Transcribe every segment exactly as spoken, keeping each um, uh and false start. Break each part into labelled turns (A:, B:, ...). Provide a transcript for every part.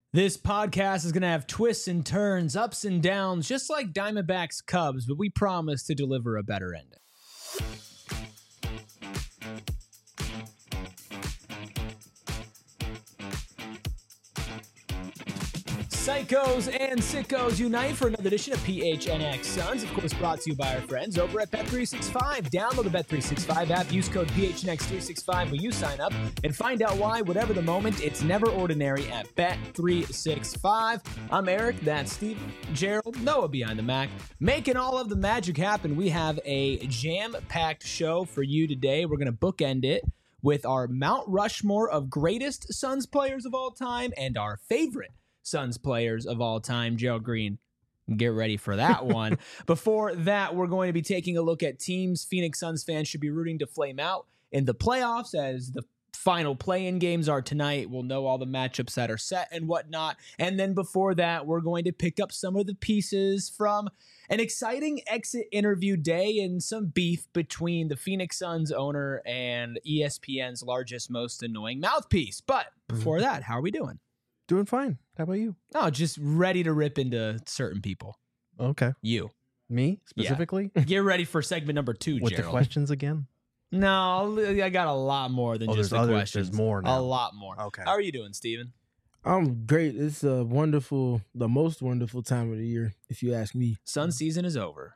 A: This podcast is going to have twists and turns, ups and downs, just like Diamondbacks Cubs, but we promise to deliver a better ending. Psychos and sickos unite for another edition of P H N X Suns, of course brought to you by our friends over at Bet three sixty-five. Download the Bet three sixty-five app, use code P H N X three sixty-five when you sign up, and find out why, whatever the moment, it's never ordinary at Bet three sixty-five. I'm Eric, that's Steve, Gerald, Noah behind the Mac, making all of the magic happen. We have a jam-packed show for you today. We're going to bookend it with our Mount Rushmore of greatest Suns players of all time and our favorite Suns players of all time. Gerald Green, get ready for that one. Before that, we're going to be taking a look at teams Phoenix Suns fans should be rooting to flame out in the playoffs as the final play-in games are tonight. We'll know all the matchups that are set and whatnot. And then before that, we're going to pick up some of the pieces from an exciting exit interview day and some beef between the Phoenix Suns owner and E S P N's largest, most annoying mouthpiece. But before that, how are we doing?
B: Doing fine. How about you?
A: Oh, just ready to rip into certain people.
B: Okay.
A: You.
B: Me, specifically?
A: Yeah. Get ready for segment number two,
B: With
A: Gerald.
B: the questions again?
A: No, I got a lot more than
B: Oh,
A: just
B: there's
A: the
B: other-
A: questions.
B: there's more now.
A: A lot more.
B: Okay.
A: How are you doing, Steven?
C: I'm great. It's a wonderful, the most wonderful time of the year, if you ask me.
A: Sun season is over.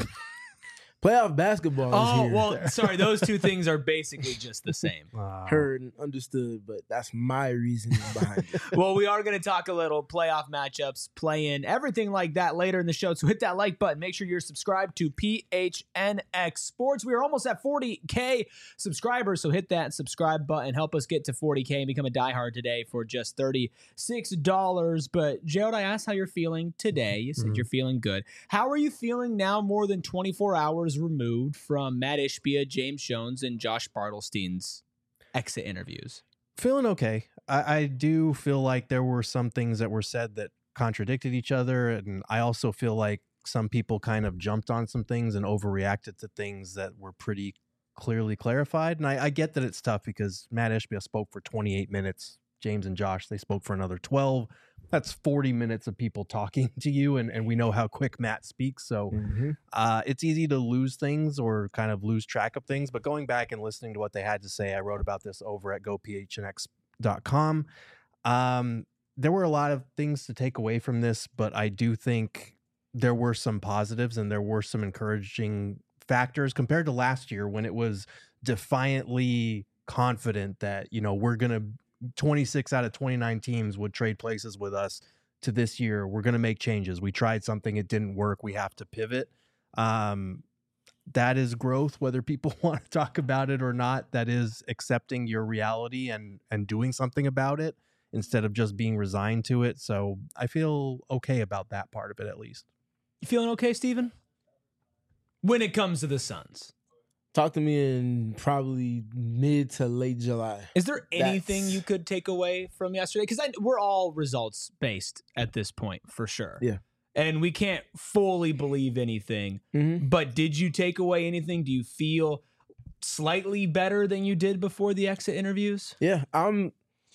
C: Playoff basketball
A: Oh,
C: is here.
A: well, sorry. Those two things are basically just the same.
B: Uh,
C: Heard and understood, but that's my reasoning behind it.
A: Well, we are going to talk a little playoff matchups, play-in, everything like that later in the show. So hit that like button. Make sure you're subscribed to P H N X Sports. We are almost at forty K subscribers, so hit that subscribe button. Help us get to forty K and become a diehard today for just thirty-six dollars. But, Gerald, I asked how you're feeling today. You said
B: Mhm.
A: you're feeling good. How are you feeling now more than twenty-four hours removed from Matt Ishbia, James Jones, and Josh Bartlestein's exit interviews?
B: Feeling okay. I, I do feel like there were some things that were said that contradicted each other. And I also feel like some people kind of jumped on some things and overreacted to things that were pretty clearly clarified. And I, I get that it's tough because Matt Ishbia spoke for twenty-eight minutes. James and Josh, they spoke for another twelve. That's forty minutes of people talking to you, and, and we know how quick Matt speaks. So
C: Mm-hmm.
B: uh, it's easy to lose things or kind of lose track of things. But going back and listening to what they had to say, I wrote about this over at go P H N X dot com. Um, there were a lot of things to take away from this, but I do think there were some positives and there were some encouraging factors compared to last year when it was defiantly confident that, you know, we're going to twenty-six out of twenty-nine teams would trade places with us, to this year we're going to make changes. We tried something, it didn't work, we have to pivot. Um, that is growth, whether people want to talk about it or not. That is accepting your reality and and doing something about it instead of just being resigned to it. So I feel okay about that part of it, at least.
A: You feeling okay, Steven? When it comes to the Suns,
C: Talk to me in probably mid to late July.
A: is there anything
C: That's-
A: you could take away from yesterday? Because we're all results based at this point, for sure.
C: Yeah.
A: And we can't fully believe anything.
C: Mm-hmm.
A: But did you take away anything? Do you feel slightly better than you did before the exit interviews?
C: Yeah, I'm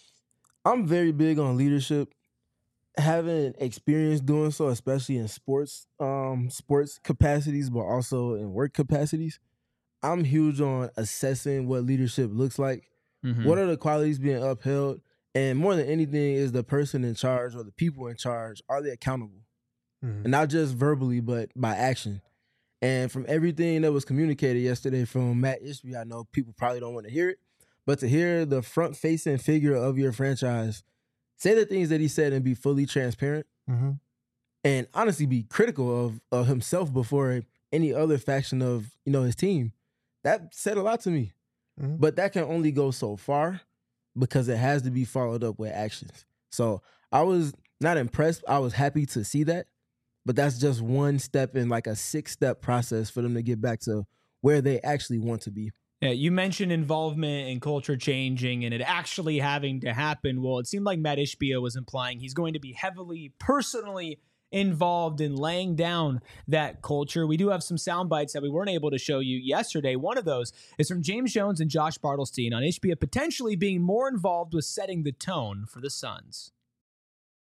C: I'm very big on leadership. Having experience doing so, especially in sports, um, sports capacities, but also in work capacities. I'm huge on assessing what leadership looks like.
A: Mhm.
C: What are the qualities being upheld? And more than anything, is the person in charge or the people in charge, are they accountable? And not just verbally, but by action. And from everything that was communicated yesterday from Matt Ishbia, I know people probably don't want to hear it, but to hear the front-facing figure of your franchise say the things that he said and be fully transparent
B: Mm-hmm.
C: and honestly be critical of, of himself before any other faction of, you know, his team, that said a lot to me.
B: Mhm.
C: But that can only go so far because it has to be followed up with actions. So I was not impressed. I was happy to see that. But that's just one step in like a six-step process for them to get back to where they actually want to be.
A: Yeah, you mentioned involvement and culture changing and it actually having to happen. Well, it seemed like Matt Ishbia was implying he's going to be heavily personally involved in laying down that culture. We do have some sound bites that we weren't able to show you yesterday. One of those is from James Jones and Josh Bartlestein on Ishbia potentially being more involved with setting the tone for the Suns.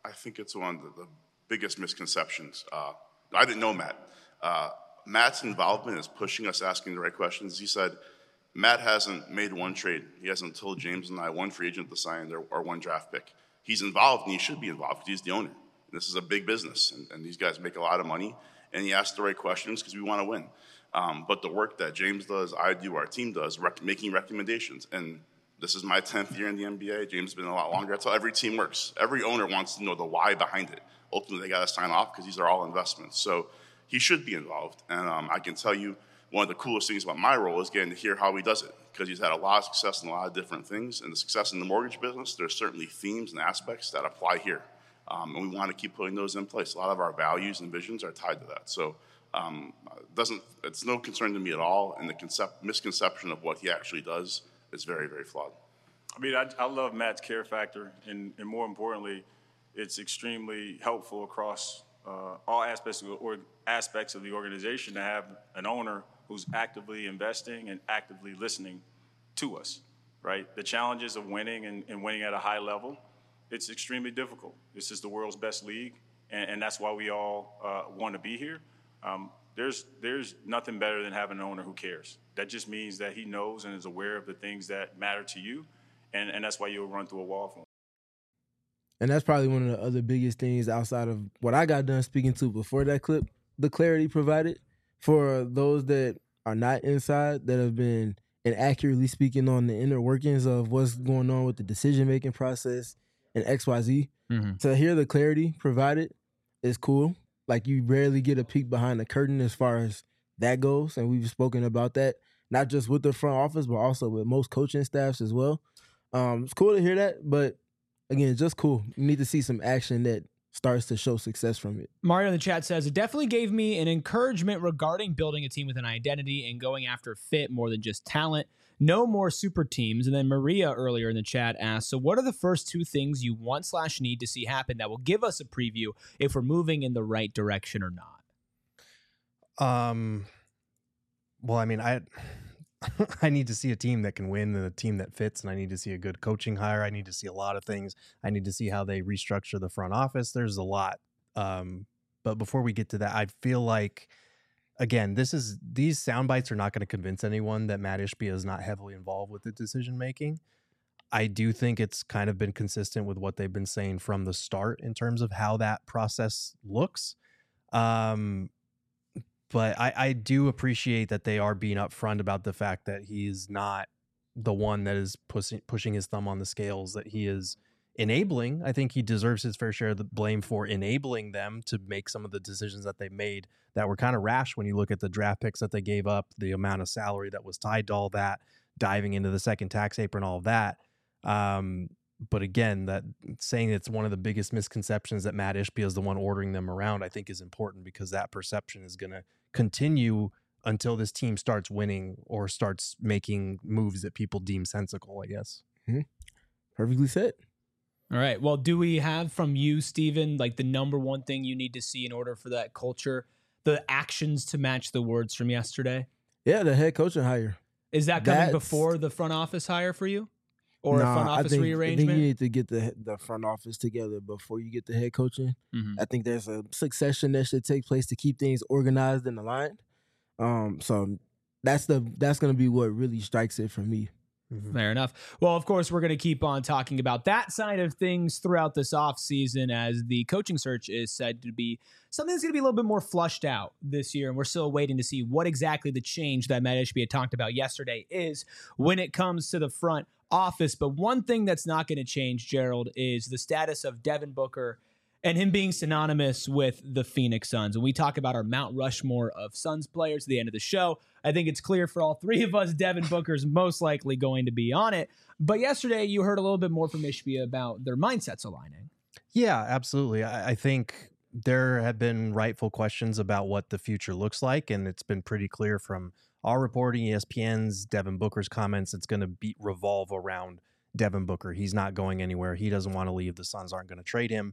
D: I think it's one of the, the biggest misconceptions. Uh, I didn't know Matt. Uh, Matt's involvement is pushing us asking the right questions. He said, Matt hasn't made one trade. He hasn't told James and I one free agent to sign or, or one draft pick. He's involved, and he should be involved because he's the owner. And this is a big business, and, and these guys make a lot of money, and he asks the right questions because we want to win. Um, but the work that James does, I do, our team does, rec- making recommendations. And this is my tenth year in the N B A. James has been a lot longer. That's how every team works. Every owner wants to know the why behind it. Ultimately, they got to sign off because these are all investments. So he should be involved. And um, I can tell you, one of the coolest things about my role is getting to hear how he does it, because he's had a lot of success in a lot of different things. And the success in the mortgage business, there's certainly themes and aspects that apply here. Um, and we want to keep putting those in place. A lot of our values and visions are tied to that. So um, doesn't it's no concern to me at all. And the concept, misconception of what he actually does is very, very flawed.
E: I mean, I, I love Matt's care factor. And, and more importantly, it's extremely helpful across uh, all aspects of, the, or aspects of the organization to have an owner who's actively investing and actively listening to us, right? The challenges of winning and, and winning at a high level, it's extremely difficult. This is the world's best league, and, and that's why we all uh, want to be here. Um, there's there's nothing better than having an owner who cares. That just means that he knows and is aware of the things that matter to you, and, and that's why you'll run through a wall for him.
C: And that's probably one of the other biggest things outside of what I got done speaking to before that clip, the clarity provided for those that are not inside, that have been inaccurately speaking on the inner workings of what's going on with the decision-making process and X Y Z. Mm-hmm. To hear the clarity provided is cool. Like, you rarely get a peek behind the curtain as far as that goes, and we've spoken about that, not just with the front office, but also with most coaching staffs as well. Um, it's cool to hear that, but again, just cool. You need to see some action that starts to show success from it.
A: Mario in the chat says, it definitely gave me an encouragement regarding building a team with an identity and going after fit more than just talent. No more super teams. And then Maria earlier in the chat asked, so what are the first two things you want slash need to see happen that will give us a preview if we're moving in the right direction or not?
B: Um, well, I mean, I... I need to see a team that can win and a team that fits, and I need to see a good coaching hire. I need to see a lot of things. I need to see how they restructure the front office. There's a lot. Um, but before we get to that, I feel like, again, this is these sound bites are not going to convince anyone that Matt Ishbia is not heavily involved with the decision making. I do think it's kind of been consistent with what they've been saying from the start in terms of how that process looks. Um, But I, I do appreciate that they are being upfront about the fact that he is not the one that is pushing pushing his thumb on the scales, that he is enabling. I think he deserves his fair share of the blame for enabling them to make some of the decisions that they made that were kind of rash when you look at the draft picks that they gave up, the amount of salary that was tied to all that, diving into the second tax apron, all of that. Um, but again, that saying it's one of the biggest misconceptions that Matt Ishbia is the one ordering them around, I think is important, because that perception is going to continue until this team starts winning or starts making moves that people deem sensical, I guess.
C: Mm-hmm. Perfectly said.
A: All right. Well, do we have from you, Steven, like the number one thing you need to see in order for that culture, the actions to match the words from yesterday?
C: Yeah, the head coaching hire.
A: Is that coming
C: That's...
A: before the front office hire for you? Or
C: nah,
A: a front office
C: I think,
A: rearrangement?
C: I think you need to get the the front office together before you get the head coaching. Mm-hmm. I think there's a succession that should take place to keep things organized and aligned. Um, so that's the that's going to be what really strikes it for me.
A: Mm-hmm. Fair enough. Well, of course, we're going to keep on talking about that side of things throughout this offseason, as the coaching search is said to be something that's going to be a little bit more flushed out this year. And we're still waiting to see what exactly the change that Matt Ishbia talked about yesterday is when it comes to the front office. But one thing that's not going to change, Gerald, is the status of Devin Booker and him being synonymous with the Phoenix Suns. When we talk about our Mount Rushmore of Suns players at the end of the show, I think it's clear for all three of us, Devin Booker's most likely going to be on it. But yesterday, you heard a little bit more from Ishbia about their mindsets aligning.
B: Yeah, absolutely. I, I think there have been rightful questions about what the future looks like, and it's been pretty clear from our reporting, E S P N's, Devin Booker's comments, it's going to be revolve around Devin Booker. He's not going anywhere. He doesn't want to leave. The Suns aren't going to trade him.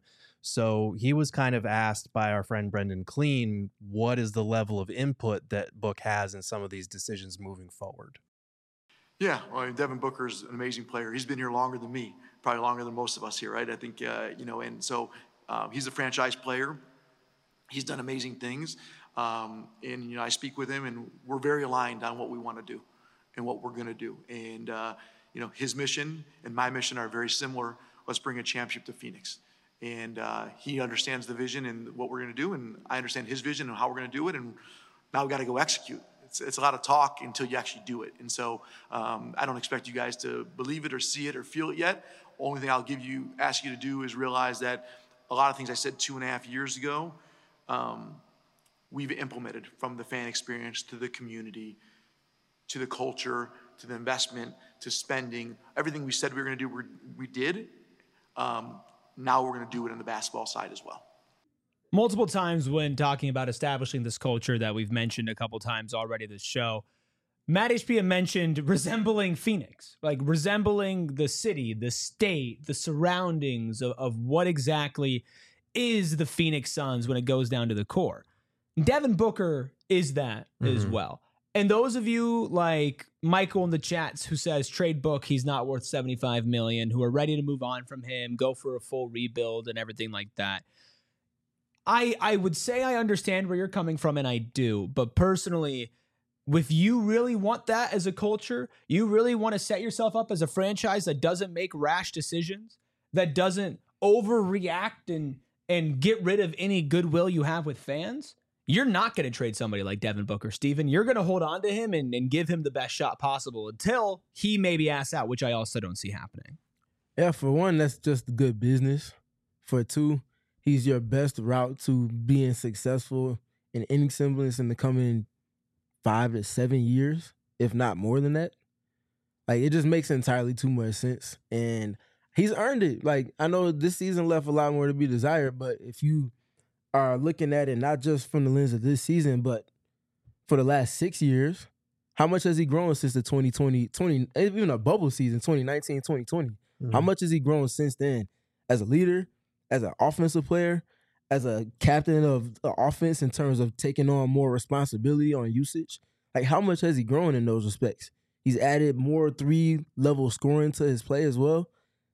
B: So he was kind of asked by our friend Brendan Clean, what is the level of input that Book has in some of these decisions moving forward?
F: Yeah, well, I mean, Devin Booker's an amazing player. He's been here longer than me, probably longer than most of us here, right? I think, uh, you know, and so Uh, he's a franchise player. He's done amazing things. Um, and, you know, I speak with him, and we're very aligned on what we want to do and what we're going to do. And, uh, you know, his mission and my mission are very similar. Let's bring a championship to Phoenix. And uh, he understands the vision and what we're going to do, and I understand his vision and how we're going to do it, and now we've got to go execute. It's, it's a lot of talk until you actually do it. And so um, I don't expect you guys to believe it or see it or feel it yet. Only thing I'll give you, ask you to do is realize that a lot of things I said two and a half years ago, um, we've implemented, from the fan experience to the community, to the culture, to the investment, to spending. Everything we said we were going to do, we we did. Um, now we're going to do it on the basketball side as well.
A: Multiple times when talking about establishing this culture that we've mentioned a couple times already this show, Matt Ishbia mentioned resembling Phoenix, like resembling the city, the state, the surroundings of, of what exactly is the Phoenix Suns when it goes down to the core. Devin Booker is that mm-hmm. as well. And those of you like Michael in the chats who says trade Book, he's not worth seventy-five million dollars, who are ready to move on from him, go for a full rebuild and everything like that. I I would say I understand where you're coming from, and I do. But personally, if you really want that as a culture, you really want to set yourself up as a franchise that doesn't make rash decisions, that doesn't overreact and and get rid of any goodwill you have with fans, you're not going to trade somebody like Devin Booker, Steven. You're going to hold on to him and, and give him the best shot possible until he maybe asks out, which I also don't see happening.
C: Yeah, for one, that's just good business. For two, he's your best route to being successful in any semblance in the coming five to seven years, if not more than that. Like, it just makes entirely too much sense. And he's earned it. Like, I know this season left a lot more to be desired, but if you are looking at it not just from the lens of this season, but for the last six years, how much has he grown since the twenty twenty, twenty even a bubble season, twenty nineteen, twenty twenty? Mm-hmm. How much has he grown since then as a leader, as an offensive player, as a captain of the offense in terms of taking on more responsibility on usage? Like, how much has he grown in those respects? He's added more three-level scoring to his play as well.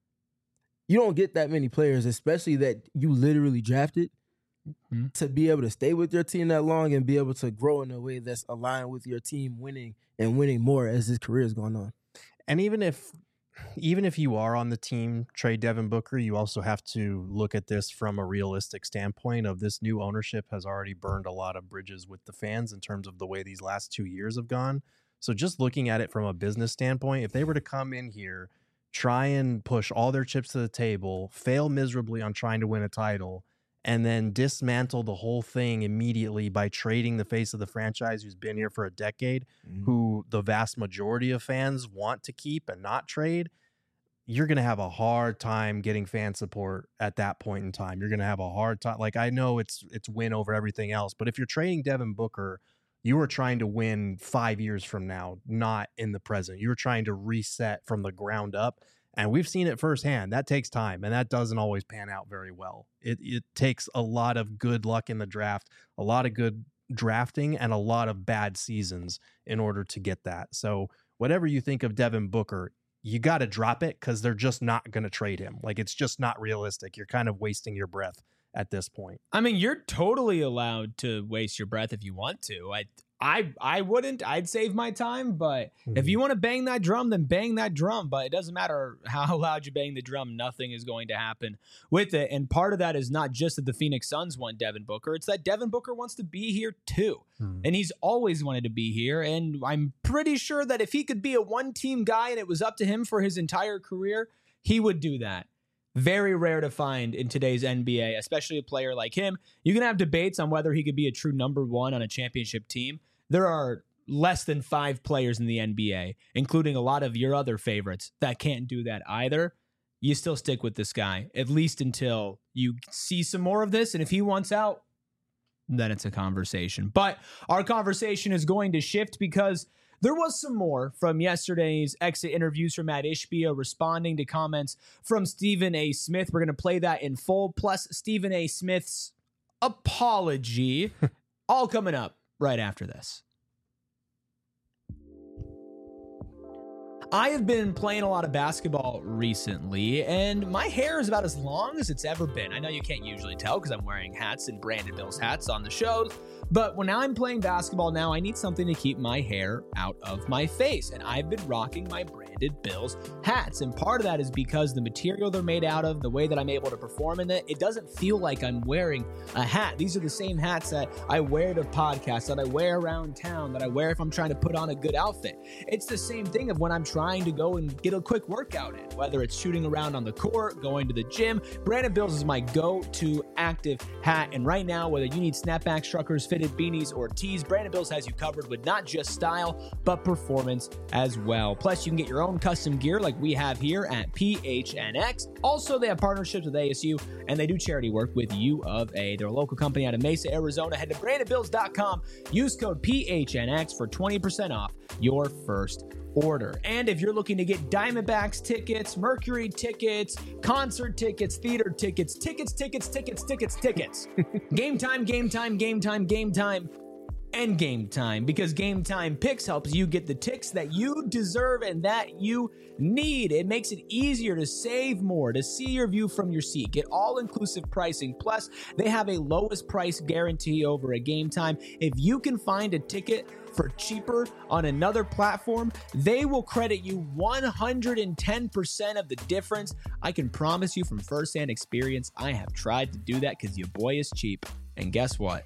C: You don't get that many players, especially that you literally drafted, mm-hmm. to be able to stay with your team that long and be able to grow in a way that's aligned with your team winning and winning more as his career is going on.
B: And even if even if you are on the team, trade Devin Booker, you also have to look at this from a realistic standpoint of this new ownership has already burned a lot of bridges with the fans in terms of the way these last two years have gone. So just looking at it from a business standpoint, if they were to come in here, try and push all their chips to the table, fail miserably on trying to win a title, and then dismantle the whole thing immediately by trading the face of the franchise who's been here for a decade, mm-hmm. who the vast majority of fans want to keep and not trade, you're going to have a hard time getting fan support at that point in time. You're going to have a hard time. Like, I know it's it's win over everything else, but if you're trading Devin Booker, you are trying to win five years from now, not in the present. You're trying to reset from the ground up. And we've seen it firsthand. That takes time, and that doesn't always pan out very well. It it takes a lot of good luck in the draft, a lot of good drafting, and a lot of bad seasons in order to get that. So whatever you think of Devin Booker, you got to drop it because they're just not going to trade him. Like, it's just not realistic. You're kind of wasting your breath at this point.
A: I mean, you're totally allowed to waste your breath if you want to. I I I wouldn't. I'd save my time, but mm-hmm. if you want to bang that drum, then bang that drum. But it doesn't matter how loud you bang the drum. Nothing is going to happen with it. And part of that is not just that the Phoenix Suns want Devin Booker. It's that Devin Booker wants to be here too. Mm-hmm. And he's always wanted to be here. And I'm pretty sure that if he could be a one-team guy and it was up to him for his entire career, he would do that. Very rare to find in today's N B A, especially a player like him. You can have debates on whether he could be a true number one on a championship team. There are less than five players in the N B A, including a lot of your other favorites, that can't do that either. You still stick with this guy, at least until you see some more of this. And if he wants out, then it's a conversation. But our conversation is going to shift because there was some more from yesterday's exit interviews from Matt Ishbia responding to comments from Stephen A. Smith. We're going to play that in full, plus Stephen A. Smith's apology, all coming up right after this. I have been playing a lot of basketball recently, and my hair is about as long as it's ever been. I know you can't usually tell because I'm wearing hats and Brandon Bills hats on the shows, but when I'm playing basketball now, I need something to keep my hair out of my face, and I've been rocking my Brandon Bills hats, and part of that is because the material they're made out of, the way that I'm able to perform in it, it doesn't feel like I'm wearing a hat. These are the same hats that I wear to podcasts, that I wear around town, that I wear if I'm trying to put on a good outfit. It's the same thing of when I'm trying to go and get a quick workout in, whether it's shooting around on the court, going to the gym. Brandon Bills is my go-to active hat, and right now, whether you need snapback truckers, fitted beanies, or tees, Brandon Bills has you covered with not just style, but performance as well. Plus, you can get your own custom gear like we have here at P H N X. Also, they have partnerships with A S U, and they do charity work with U of A. They're a local company out of Mesa, Arizona. Head to brandon bills dot com. Use code P H N X for twenty percent off your first order. And if you're looking to get Diamondbacks tickets, Mercury tickets, concert tickets, theater tickets, tickets, tickets, tickets, tickets, tickets, game time, game time, game time, game time, and game time, because Game Time Picks helps you get the ticks that you deserve and that you need. It makes it easier to save more, to see your view from your seat, get all-inclusive pricing. Plus, they have a lowest price guarantee over at Game Time. If you can find a ticket for cheaper on another platform, they will credit you one hundred ten percent of the difference. I can promise you from firsthand experience, I have tried to do that because your boy is cheap. And guess what?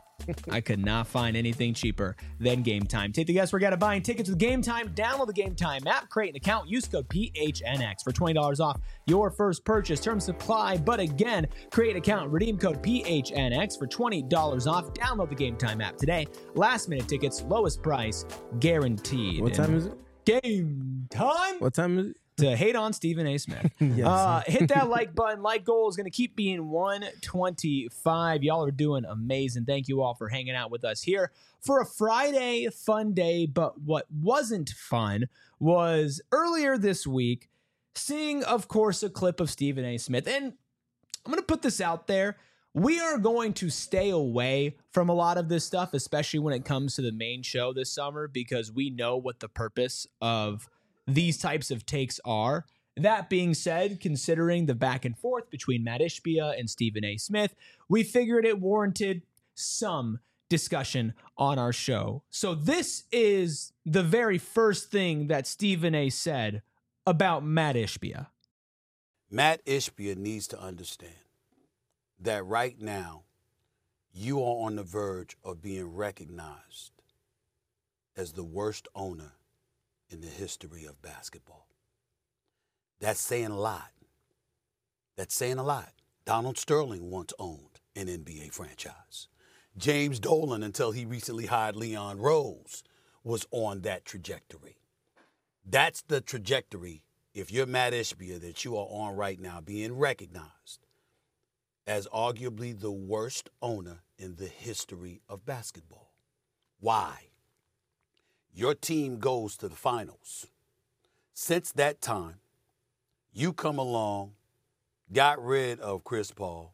A: I could not find anything cheaper than Game Time. Take the guesswork out of buying tickets with Game Time. Download the Game Time app, create an account, use code P H N X for twenty dollars off your first purchase. Terms supply, but again, create an account, redeem code P H N X for twenty dollars off. Download the Game Time app today. Last minute tickets, lowest price, guaranteed.
C: What time is it?
A: Game time.
C: What time is it?
A: To hate on Stephen A. Smith.
C: Yes.
A: uh, hit that like button. Like goal is going to keep being one twenty-five. Y'all are doing amazing. Thank you all for hanging out with us here for a Friday fun day. But what wasn't fun was earlier this week seeing, of course, a clip of Stephen A. Smith. And I'm going to put this out there. We are going to stay away from a lot of this stuff, especially when it comes to the main show this summer, because we know what the purpose of these types of takes are. That being said, considering the back and forth between Matt Ishbia and Stephen A. Smith, we figured it warranted some discussion on our show. So this is the very first thing that Stephen A. said about Matt Ishbia.
G: Matt Ishbia needs to understand that right now you are on the verge of being recognized as the worst owner in the history of basketball. That's saying a lot. That's saying a lot. Donald Sterling once owned an N B A franchise. James Dolan, until he recently hired Leon Rose, was on that trajectory. That's the trajectory, if you're Matt Ishbia, that you are on right now, being recognized as arguably the worst owner in the history of basketball. Why? Your team goes to the finals. Since that time, you come along, got rid of Chris Paul,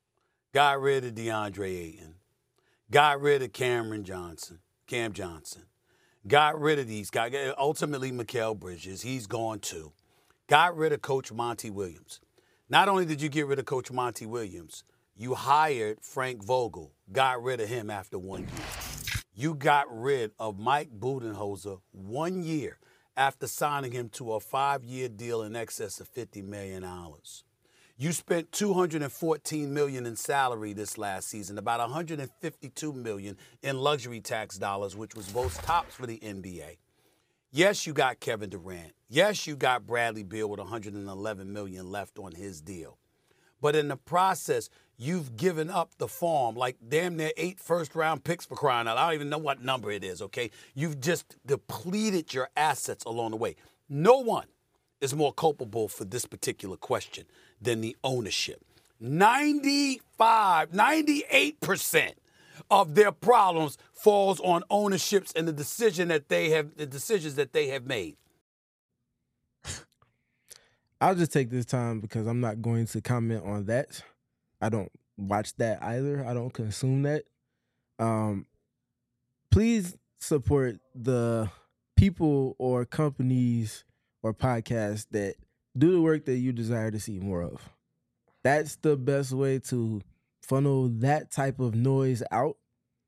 G: got rid of DeAndre Ayton, got rid of Cameron Johnson, Cam Johnson, got rid of these guys, ultimately Mikal Bridges, he's gone too. Got rid of Coach Monty Williams. Not only did you get rid of Coach Monty Williams, you hired Frank Vogel, got rid of him after one year. You got rid of Mike Budenholzer one year after signing him to a five-year deal in excess of fifty million dollars. You spent two hundred fourteen million dollars in salary this last season, about one hundred fifty-two million dollars in luxury tax dollars, which was both tops for the N B A. Yes, you got Kevin Durant. Yes, you got Bradley Beal with one hundred eleven million dollars left on his deal. But in the process, you've given up the farm, like damn near eight first-round picks for crying out. I don't even know what number it is, okay? You've just depleted your assets along the way. No one is more culpable for this particular question than the ownership. ninety-five, ninety-eight percent of their problems falls on ownerships and the decision that they have, the decisions that they have made.
C: I'll just take this time because I'm not going to comment on that. I don't watch that either. I don't consume that. Um, please support the people or companies or podcasts that do the work that you desire to see more of. That's the best way to funnel that type of noise out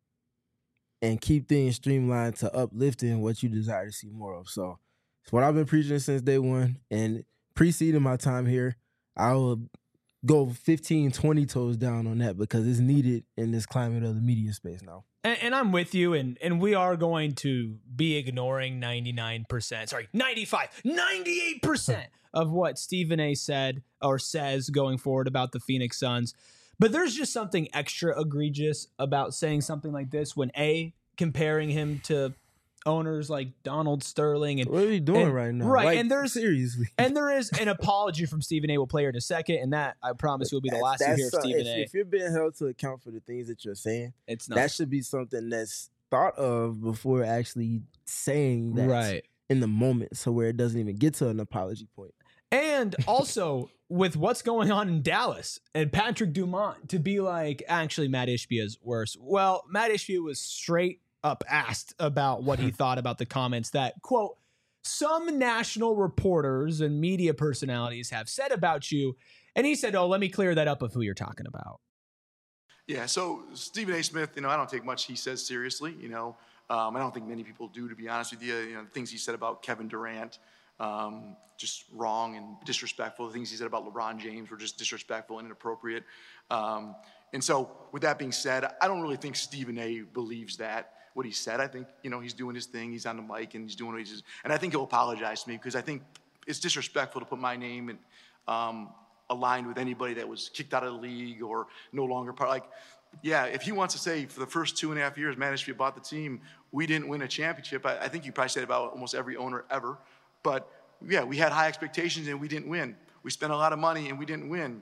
C: and keep things streamlined to uplifting what you desire to see more of. So it's what I've been preaching since day one. And preceding my time here, I will go fifteen, twenty toes down on that because it's needed in this climate of the media space now.
A: And, and I'm with you, and, and we are going to be ignoring ninety-nine percent, sorry, ninety-five, ninety-eight percent of what Stephen A. said or says going forward about the Phoenix Suns. But there's just something extra egregious about saying something like this when A, comparing him to owners like Donald Sterling. And
C: what are you doing
A: and,
C: right now?
A: Right.
C: Like,
A: and there's
C: seriously.
A: And there is an apology from Stephen A. We'll play here in a second. And that, I promise you, will be the last you hear of Stephen
C: if,
A: A.
C: If you're being held to account for the things that you're saying,
A: it's not.
C: That should be something that's thought of before actually saying that
A: right.
C: in the moment, so where it doesn't even get to an apology point.
A: And also with what's going on in Dallas and Patrick Dumont to be like, actually, Matt Ishbia is worse. Well, Matt Ishbia was straight up asked about what he thought about the comments that, quote, some national reporters and media personalities have said about you. And he said, oh, let me clear that up of who you're talking about.
F: Yeah, so Stephen A. Smith, you know, I don't take much he says seriously, you know. Um, I don't think many people do, to be honest with you. You know, the things he said about Kevin Durant, um, just wrong and disrespectful. The things he said about LeBron James were just disrespectful and inappropriate. Um, and so with that being said, I don't really think Stephen A. believes that, what he said. I think, you know, he's doing his thing. He's on the mic and he's doing what he's, and I think he'll apologize to me because I think it's disrespectful to put my name and um, aligned with anybody that was kicked out of the league or no longer part. Like, yeah, if he wants to say for the first two and a half years, Matt Ishbia bought the team, we didn't win a championship. I, I think you probably said about almost every owner ever. But yeah, we had high expectations and we didn't win. We spent a lot of money and we didn't win.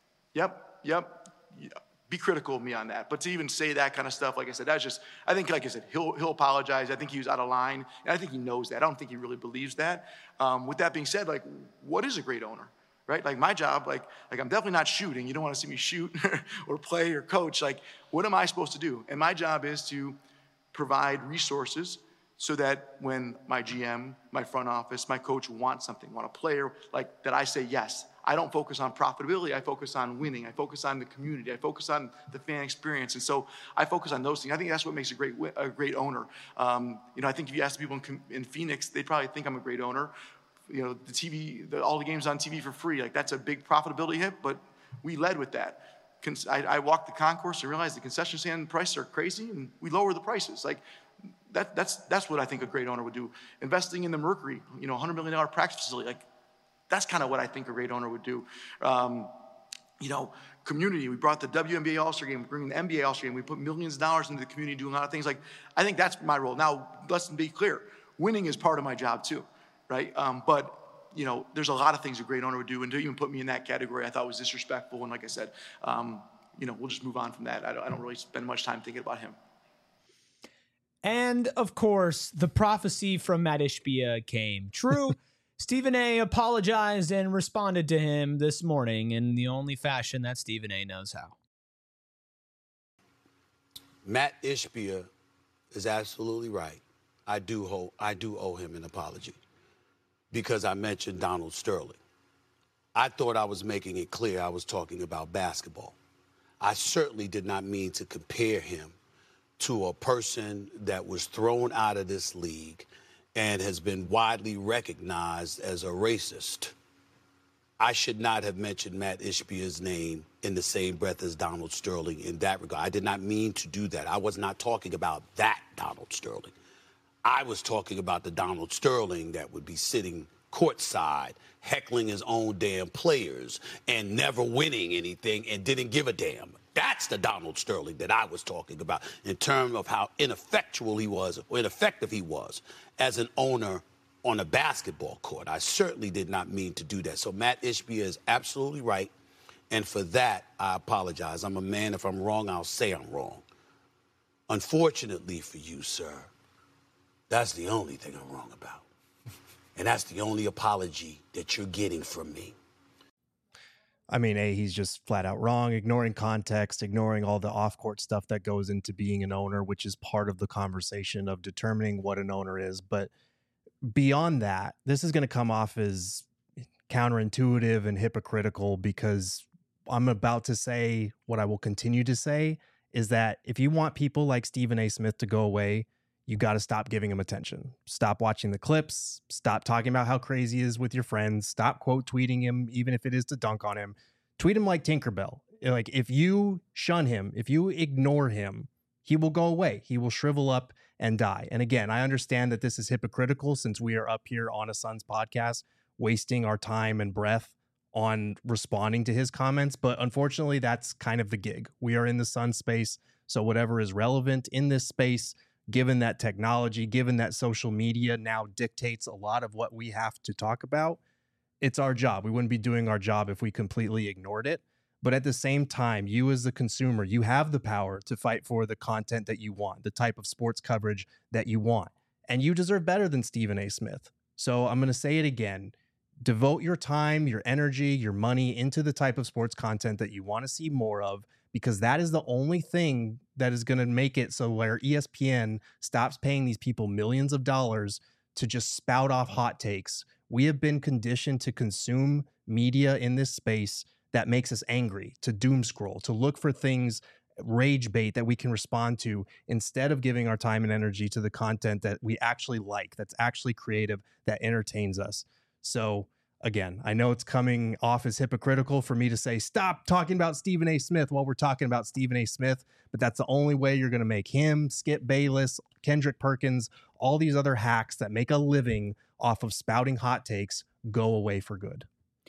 F: Yep, yep. Yeah. Be critical of me on that. But to even say that kind of stuff, like I said, that's just, I think, like I said, he'll he'll apologize. I think he was out of line. And I think he knows that. I don't think he really believes that. Um, with that being said, like, what is a great owner? Right? Like my job, like, like I'm definitely not shooting. You don't want to see me shoot or play or coach. Like, what am I supposed to do? And my job is to provide resources so that when my G M, my front office, my coach wants something, want a player, like that I say yes. I don't focus on profitability. I focus on winning. I focus on the community. I focus on the fan experience. And so I focus on those things. I think that's what makes a great a great owner. Um, you know, I think if you ask people in, in Phoenix, they probably think I'm a great owner. You know, the T V, the, all the games on T V for free, like that's a big profitability hit, but we led with that. I, I walked the concourse and realized the concession stand prices are crazy, and we lower the prices. Like that, that's that's what I think a great owner would do. Investing in the Mercury, you know, one hundred million dollars practice facility, like that's kind of what I think a great owner would do. Um, you know, community. We brought the W N B A All-Star Game, we're bringing the N B A All-Star Game. We put millions of dollars into the community, doing a lot of things. Like I think that's my role. Now, let's be clear. Winning is part of my job too, right? Um, but you know, there's a lot of things a great owner would do, and to even put me in that category, I thought was disrespectful. And like I said, um, you know, we'll just move on from that. I don't, I don't really spend much time thinking about him.
A: And of course, the prophecy from Matt Ishbia came true. Stephen A. apologized and responded to him this morning in the only fashion that Stephen A. knows how.
G: Matt Ishbia is absolutely right. I do owe, I do owe him an apology because I mentioned Donald Sterling. I thought I was making it clear I was talking about basketball. I certainly did not mean to compare him to a person that was thrown out of this league and has been widely recognized as a racist. I should not have mentioned Matt Ishbia's name in the same breath as Donald Sterling in that regard. I did not mean to do that. I was not talking about that Donald Sterling. I was talking about the Donald Sterling that would be sitting courtside, heckling his own damn players and never winning anything and didn't give a damn. That's the Donald Sterling that I was talking about in terms of how ineffectual he was, or ineffective he was as an owner on a basketball court. I certainly did not mean to do that. So Matt Ishbia is absolutely right. And for that, I apologize. I'm a man. If I'm wrong, I'll say I'm wrong. Unfortunately for you, sir, that's the only thing I'm wrong about. And that's the only apology that you're getting from me.
B: I mean, A, he's just flat out wrong, ignoring context, ignoring all the off-court stuff that goes into being an owner, which is part of the conversation of determining what an owner is. But beyond that, this is going to come off as counterintuitive and hypocritical, because I'm about to say what I will continue to say is that if you want people like Stephen A. Smith to go away, you got to stop giving him attention. Stop watching the clips. Stop talking about how crazy he is with your friends. Stop quote tweeting him, even if it is to dunk on him. Tweet him like Tinkerbell. Like, if you shun him, if you ignore him, he will go away. He will shrivel up and die. And again, I understand that this is hypocritical since we are up here on a Suns podcast, wasting our time and breath on responding to his comments. But unfortunately, that's kind of the gig. We are in the Suns space. So whatever is relevant in this space, given that technology, given that social media now dictates a lot of what we have to talk about, it's our job. We wouldn't be doing our job if we completely ignored it. But at the same time, you as the consumer, you have the power to fight for the content that you want, the type of sports coverage that you want. And you deserve better than Stephen A. Smith. So I'm going to say it again. Devote your time, your energy, your money into the type of sports content that you want to see more of, because that is the only thing that is going to make it so where E S P N stops paying these people millions of dollars to just spout off hot takes. We have been conditioned to consume media in this space that makes us angry, to doom scroll, to look for things, rage bait that we can respond to, instead of giving our time and energy to the content that we actually like, that's actually creative, that entertains us. So again, I know it's coming off as hypocritical for me to say, stop talking about Stephen A. Smith while we're talking about Stephen A. Smith, but that's the only way you're going to make him, Skip Bayless, Kendrick Perkins, all these other hacks that make a living off of spouting hot takes go away for good.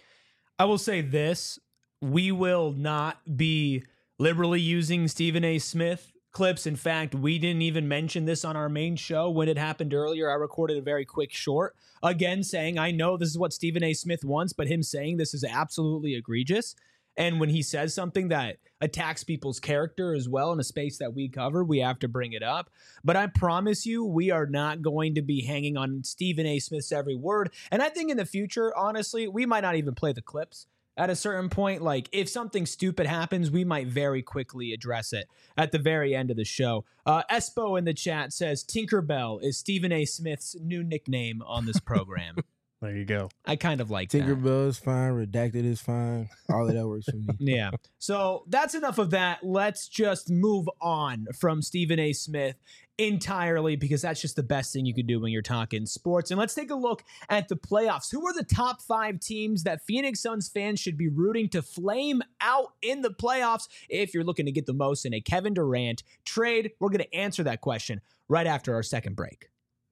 A: I will say this. We will not be liberally using Stephen A. Smith clips. In fact, we didn't even mention this on our main show when it happened earlier. I recorded a very quick short, again, saying, I know this is what Stephen A. Smith wants, but him saying this is absolutely egregious. And when he says something that attacks people's character as well in a space that we cover, we have to bring it up. But I promise you, we are not going to be hanging on Stephen A. Smith's every word. And I think in the future, honestly, we might not even play the clips. At a certain point, like if something stupid happens, we might very quickly address it at the very end of the show. Uh, Espo in the chat says Tinkerbell is Stephen A. Smith's new nickname on this program.
B: There you go.
A: I kind of like that.
C: Tinkerbell is fine. Redacted is fine. All of that works for me.
A: Yeah. So that's enough of that. Let's just move on from Stephen A. Smith entirely, because that's just the best thing you could do when you're talking sports. And let's take a look at the playoffs. Who are the top five teams that Phoenix Suns fans should be rooting to flame out in the playoffs if you're looking to get the most in a Kevin Durant trade? We're going to answer that question right after our second break.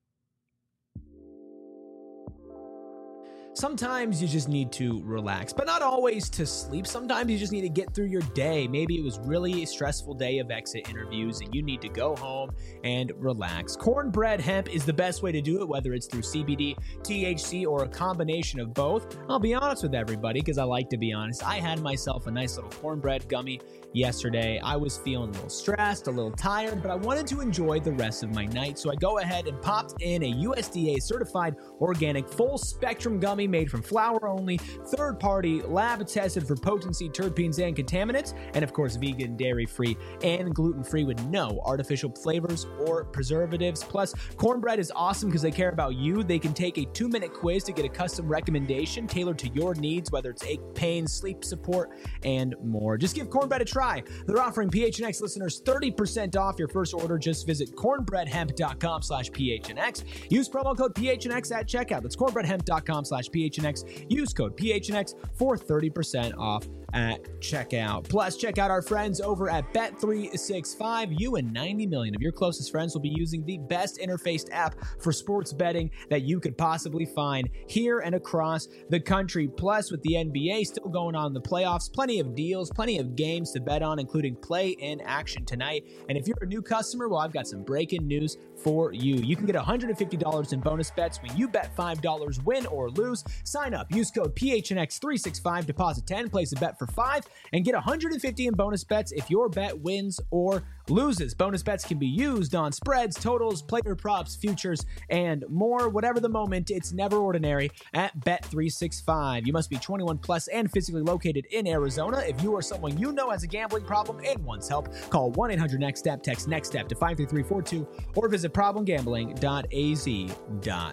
A: Sometimes you just need to relax, but not always to sleep. Sometimes you just need to get through your day. Maybe it was really a stressful day of exit interviews and you need to go home and relax. Cornbread hemp is the best way to do it, whether it's through C B D, T H C, or a combination of both. I'll be honest with everybody because I like to be honest. I had myself a nice little cornbread gummy yesterday. I was feeling a little stressed, a little tired, but I wanted to enjoy the rest of my night. So I go ahead and popped in a U S D A certified organic full spectrum gummy made from flour only, third party, lab tested for potency, terpenes, and contaminants, and of course vegan, dairy free, and gluten free with no artificial flavors or preservatives. Plus, Cornbread is awesome because they care about you. They can take a two minute quiz to get a custom recommendation tailored to your needs, whether it's ache, pain, sleep support, and more. Just give Cornbread a try. They're offering P H N X listeners thirty percent off your first order. Just visit cornbreadhemp.com slash PHNX. Use promo code P H N X at checkout. That's cornbreadhemp.com slash P H N X. Use code P H N X for thirty percent off at checkout. Plus, check out our friends over at Bet three sixty-five. You and ninety million of your closest friends will be using the best interfaced app for sports betting that you could possibly find here and across the country. Plus, with the N B A still going on in the playoffs, plenty of deals, plenty of games to bet on, including play in action tonight. And if you're a new customer, well, I've got some breaking news for you. You can get one hundred fifty dollars in bonus bets when you bet five dollars, win or lose. Sign up, use code P H N X three sixty-five, deposit ten, place a bet for five, and get one hundred fifty in bonus bets if your bet wins or loses. Bonus bets can be used on spreads, totals, player props, futures, and more. Whatever the moment, it's never ordinary at Bet three sixty-five. You must be twenty-one plus and physically located in Arizona. If you or someone you know has a gambling problem and wants help, call one eight hundred next step, text NEXTSTEP to five three three four two, or visit problem gambling dot a z dot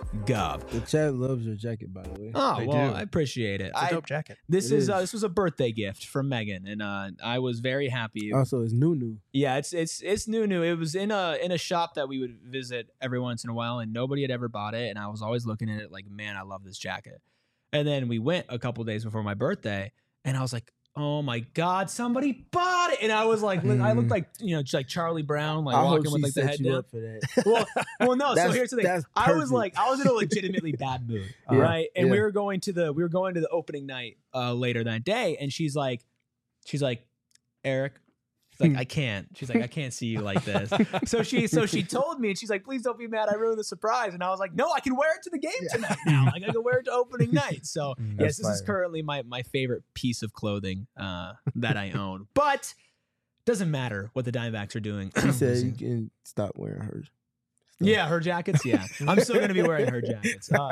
A: gov.
C: The chat loves your jacket, by the way.
A: Oh,
B: They
A: well,
B: do.
A: I appreciate it.
B: It's a
A: I,
B: dope jacket.
A: this
C: It
A: is,
C: is.
A: Uh, this was a birthday gift from Megan, and uh, I was very happy.
C: Also, it's new, new.
A: Yeah, it's it's it's new, new. It was in a in a shop that we would visit every once in a while, and nobody had ever bought it. And I was always looking at it like, man, I love this jacket. And then we went a couple days before my birthday, and I was like, oh my god, somebody bought it! And I was like, I looked like you know, just like Charlie Brown, like
C: I hope
A: walking with
C: she
A: like the
C: set
A: head
C: you
A: down.
C: up for that.
A: Well, well, no. So
C: That's-
A: here's the thing.
C: that's
A: I was
C: perfect.
A: like, I was in a legitimately bad mood,
C: Yeah.
A: right? And
C: Yeah.
A: we were going to the we were going to the opening night uh, later that day, and she's like, she's like, Eric. She's like, I can't. She's like, I can't see you like this. So she, so she told me, and she's like, please don't be mad. I ruined the surprise. And I was like, no, I can wear it to the game tonight now. Like I can wear it to opening night. So yes,
C: That's
A: this is
C: fire.
A: currently my my favorite piece of clothing uh, that I own. But doesn't matter what the Diamondbacks are doing.
C: She said you can stop wearing hers.
A: Yeah, her jackets. Yeah, I'm still gonna be wearing her jackets. Uh,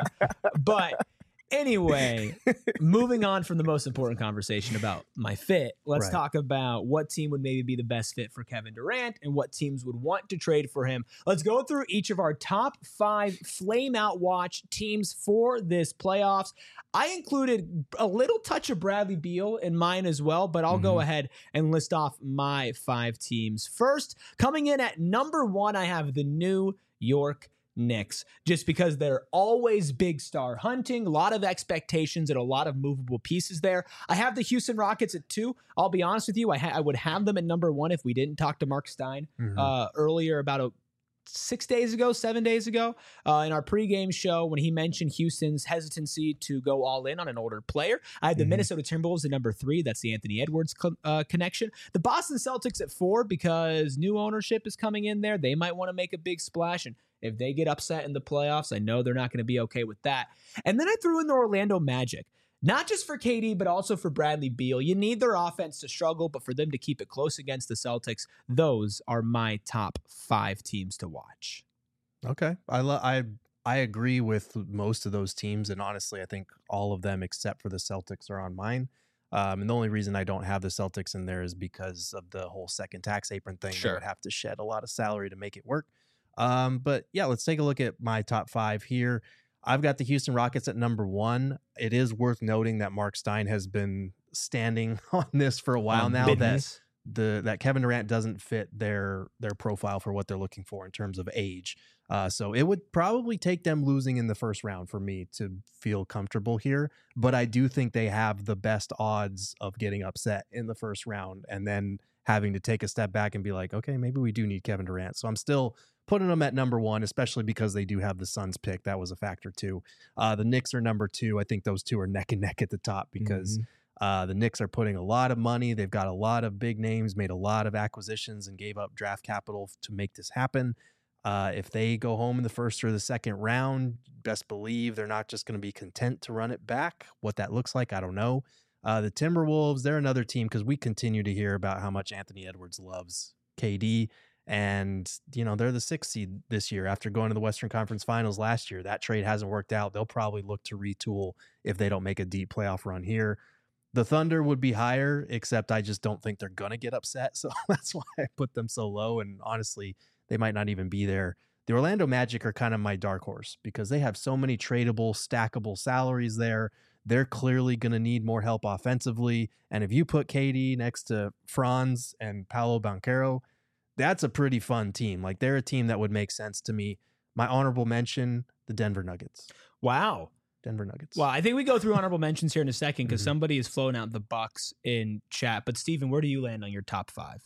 A: but anyway, moving on from the most important conversation about my fit, let's
B: Right.
A: talk about what team would maybe be the best fit for Kevin Durant and what teams would want to trade for him. Let's go through each of our top five flame out watch teams for this playoffs. I included a little touch of Bradley Beal in mine as well, but I'll go ahead and list off my five teams. First, coming in at number one, I have the New York Knicks, just because they're always big star hunting, a lot of expectations and a lot of movable pieces there. I have the Houston Rockets at two. I'll be honest with you, I, ha- I would have them at number one if we didn't talk to Mark Stein
B: Mhm.
A: uh, earlier about a six days ago, seven days ago, uh, in our pregame show when he mentioned Houston's hesitancy to go all in on an older player. I had the
B: Mhm.
A: Minnesota Timberwolves at number three. That's the Anthony Edwards co- uh, connection. The Boston Celtics at four because new ownership is coming in there. They might want to make a big splash, and if they get upset in the playoffs, I know they're not going to be okay with that. And then I threw in the Orlando Magic. Not just for K D, but also for Bradley Beal. You need their offense to struggle, but for them to keep it close against the Celtics, those are my top five teams to watch.
B: Okay, I lo- I I agree with most of those teams, and honestly, I think all of them except for the Celtics are on mine. Um, and the only reason I don't have the Celtics in there is because of the whole second tax apron thing.
A: Sure.
B: They would have to shed a lot of salary to make it work. Um, but yeah, let's take a look at my top five here. I've got the Houston Rockets at number one. It is worth noting that Mark Stein has been standing on this for a while
A: Um,
B: now that
A: business.
B: the that Kevin Durant doesn't fit their their profile for what they're looking for in terms of age. Uh, so it would probably take them losing in the first round for me to feel comfortable here. But I do think they have the best odds of getting upset in the first round and then having to take a step back and be like, okay, maybe we do need Kevin Durant. So I'm still putting them at number one, especially because they do have the Suns pick. That was a factor too. Uh, the Knicks are number two. I think those two are neck and neck at the top because uh, the Knicks are putting a lot of money. They've got a lot of big names, made a lot of acquisitions, and gave up draft capital to make this happen. Uh, if they go home in the first or the second round, best believe they're not just going to be content to run it back. What that looks like, I don't know. Uh, the Timberwolves, they're another team because we continue to hear about how much Anthony Edwards loves K D. And, you know, they're the sixth seed this year after going to the Western Conference Finals last year. That trade hasn't worked out. They'll probably look to retool if they don't make a deep playoff run here. The Thunder would be higher, except I just don't think they're going to get upset. So that's why I put them so low. And honestly, they might not even be there. The Orlando Magic are kind of my dark horse because they have so many tradable, stackable salaries there. They're clearly going to need more help offensively. And if you put K D next to Franz and Paolo Banchero, that's a pretty fun team. Like, they're a team that would make sense to me. My honorable mention, the Denver Nuggets.
A: Wow.
B: Denver Nuggets.
A: Well, I think we go through honorable mentions here in a second because
B: Mhm.
A: somebody is flowing out the Bucks in chat. But Steven, where do you land on your top five?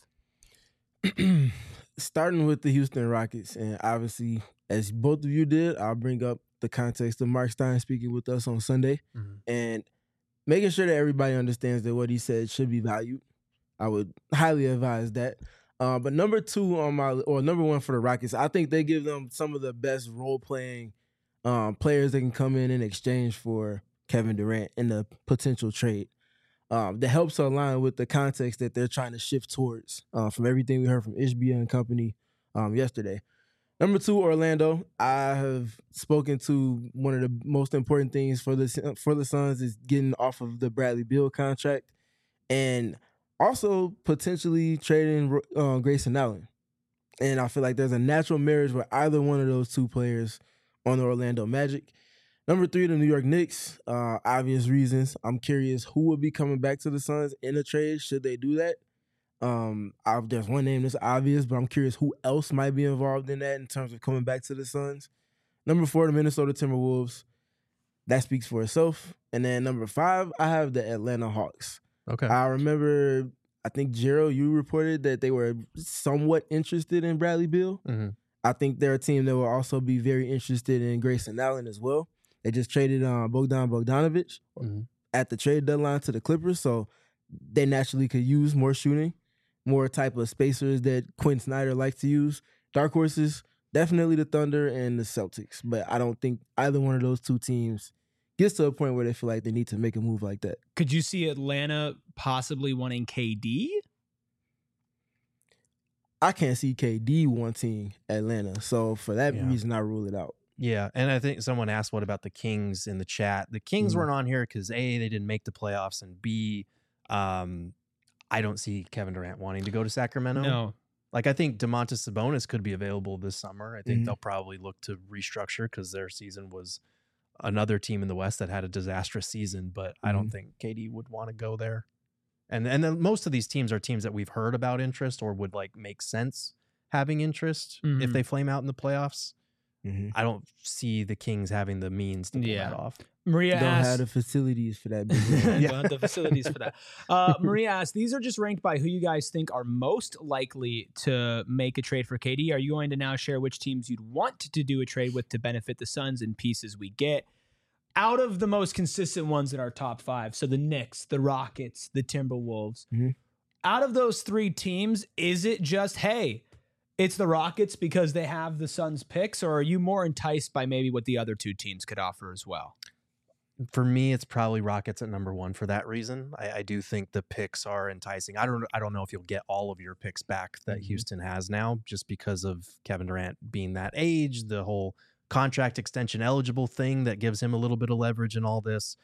C: Starting with the Houston Rockets, and obviously, as both of you did, I'll bring up the context of Mark Stein speaking with us on Sunday
B: Mhm.
C: and making sure that everybody understands that what he said should be valued. I would highly advise that. Uh, but number two on my, or number one for the Rockets, I think they give them some of the best role-playing um, players that can come in in exchange for Kevin Durant in the potential trade. Um, that helps to align with the context that they're trying to shift towards uh, from everything we heard from Ishbia and company um, yesterday. Number two, Orlando. I have spoken to one of the most important things for the for the Suns is getting off of the Bradley Beal contract and also potentially trading uh, Grayson Allen. And I feel like there's a natural marriage where either one of those two players on the Orlando Magic. Number three, the New York Knicks. Uh, obvious reasons. I'm curious who will be coming back to the Suns in a trade should they do that. Um, I've, there's one name that's obvious, but I'm curious who else might be involved in that in terms of coming back to the Suns. Number four, the Minnesota Timberwolves. That speaks for itself. And then number five, I have the Atlanta Hawks.
B: Okay.
C: I remember, I think, Gerald, you reported that they were somewhat interested in Bradley Beal.
B: Mm-hmm.
C: I think they're a team that will also be very interested in Grayson Allen as well. They just traded uh, Bogdan Bogdanovic
B: Mm-hmm.
C: at the trade deadline to the Clippers, so they naturally could use more shooting, more type of spacers that Quinn Snyder likes to use. Dark horses, definitely the Thunder and the Celtics, but I don't think either one of those two teams gets to a point where they feel like they need to make a move like that.
A: Could you see Atlanta possibly wanting K D?
C: I can't see K D wanting Atlanta, so for that
B: Yeah.
C: reason, I rule it out.
B: Yeah, and I think someone asked what about the Kings in the chat. The Kings
C: Mhm.
B: weren't on here because A, they didn't make the playoffs, and B, um, I don't see Kevin Durant wanting to go to Sacramento.
A: No.
B: Like, I think DeMontis Sabonis could be available this summer. I think
C: Mhm.
B: they'll probably look to restructure because their season was another team in the West that had a disastrous season, but I don't
C: Mhm.
B: think K D would want to go there. And and then most of these teams are teams that we've heard about interest or would like make sense having interest if
A: Mhm.
B: they flame out in the playoffs.
C: Mm-hmm.
B: I don't see the Kings having the means to pull
A: Yeah.
B: that off.
A: Maria
C: Don't
A: asked,
C: have the facilities for that. Big
A: yeah.
C: man.
A: Don't have the facilities for that. Uh, Maria asked, these are just ranked by who you guys think are most likely to make a trade for K D. Are you going to now share which teams you'd want to do a trade with to benefit the Suns and pieces we get? Out of the most consistent ones in our top five, so the Knicks, the Rockets, the Timberwolves,
C: Mhm.
A: out of those three teams, is it just, hey, it's the Rockets because they have the Suns picks, or are you more enticed by maybe what the other two teams could offer as well?
B: For me, it's probably Rockets at number one for that reason. I, I do think the picks are enticing. I don't I don't know if you'll get all of your picks back that
C: Mhm.
B: Houston has now, just because of Kevin Durant being that age, the whole contract extension eligible thing that gives him a little bit of leverage in all this.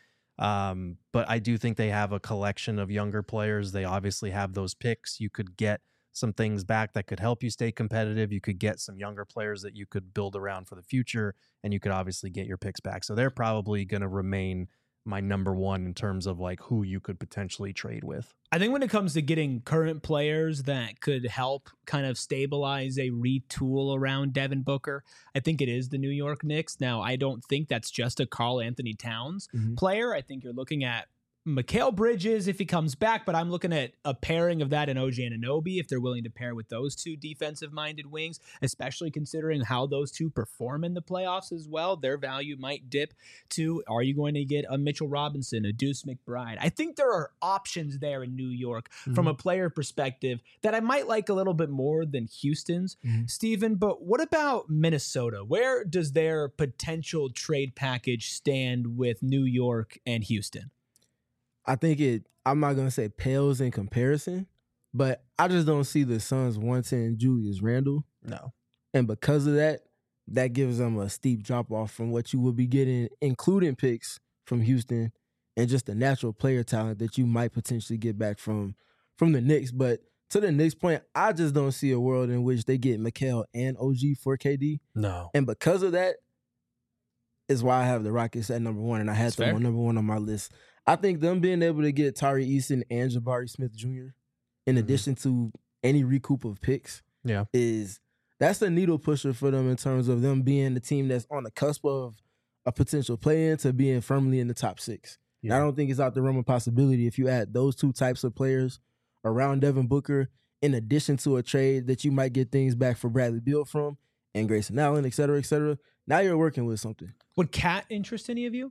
B: Um, but I do think they have a collection of younger players. They obviously have those picks. You could get some things back that could help you stay competitive. You could get some younger players that you could build around for the future, and you could obviously get your picks back. So they're probably going to remain my number one in terms of like who you could potentially trade with.
A: I think when it comes to getting current players that could help kind of stabilize a retool around Devin Booker, I think it is the New York Knicks. Now, I don't think that's just a Karl Anthony Towns
C: Mhm.
A: player. I think you're looking at Mikal Bridges if he comes back, but I'm looking at a pairing of that and O G Anunoby if they're willing to pair with those two defensive-minded wings, especially considering how those two perform in the playoffs as well. Their value might dip to, are you going to get a Mitchell Robinson, a Deuce McBride? I think there are options there in New York from a player perspective that I might like a little bit more than Houston's,
C: Mhm.
A: Steven, but what about Minnesota? Where does their potential trade package stand with New York and Houston?
C: I think it, I'm not going to say pales in comparison, but I just don't see the Suns wanting Julius Randle.
B: No.
C: And because of that, that gives them a steep drop off from what you would be getting, including picks from Houston and just the natural player talent that you might potentially get back from, from the Knicks. But to the Knicks point, I just don't see a world in which they get Mikal and O G for K D.
B: No.
C: And because of that is why I have the Rockets at number one, and I had
A: That's
C: them
A: fair.
C: on number one on my list. I think them being able to get Tari Eason and Jabari Smith Junior in
B: Mhm.
C: addition to any recoup of picks
B: Yeah.
C: is that's a needle pusher for them in terms of them being the team that's on the cusp of a potential play-in to being firmly in the top six. And I
B: Yeah.
C: don't think it's out the realm of possibility if you add those two types of players around Devin Booker in addition to a trade that you might get things back for Bradley Beal from and Grayson Allen, et cetera, et cetera. Now you're working with something.
A: Would Cat interest any of you?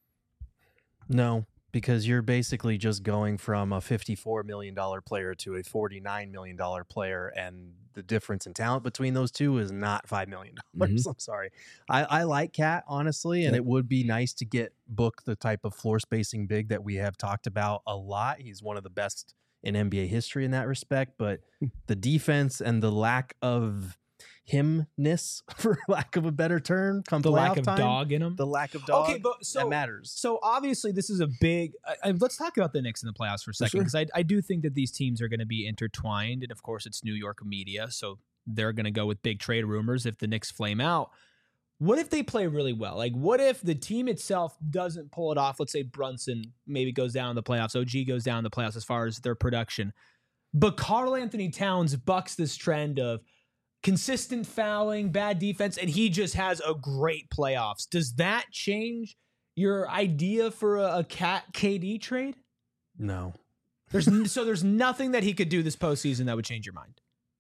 B: No, because you're basically just going from a fifty-four million dollars player to a forty-nine million dollars player, and the difference in talent between those two is not five million dollars. I'm sorry. I, I like Cat, honestly, and
C: Yep.
B: it would be nice to get Book the type of floor spacing big that we have talked about a lot. He's one of the best in N B A history in that respect, but the defense and the lack of himness, for lack of a better term, come
A: The lack
B: playoff
A: of
B: time,
A: dog in him?
B: the lack of dog,
A: Okay, but so
B: that matters.
A: So obviously, this is a big. I, I, let's talk about the Knicks in the playoffs for a second,
C: sure.
A: because I, I do think that these teams are going to be intertwined, and of course, it's New York media, so they're going to go with big trade rumors if the Knicks flame out. what if they play really well? Like, what if the team itself doesn't pull it off? Let's say Brunson maybe goes down in the playoffs. O G goes down in the playoffs as far as their production. But Karl Anthony Towns bucks this trend of consistent fouling, bad defense, and he just has a great playoffs. Does that change your idea for a, a Cat K D trade?
B: No.
A: There's so there's nothing that he could do this postseason that would change your mind.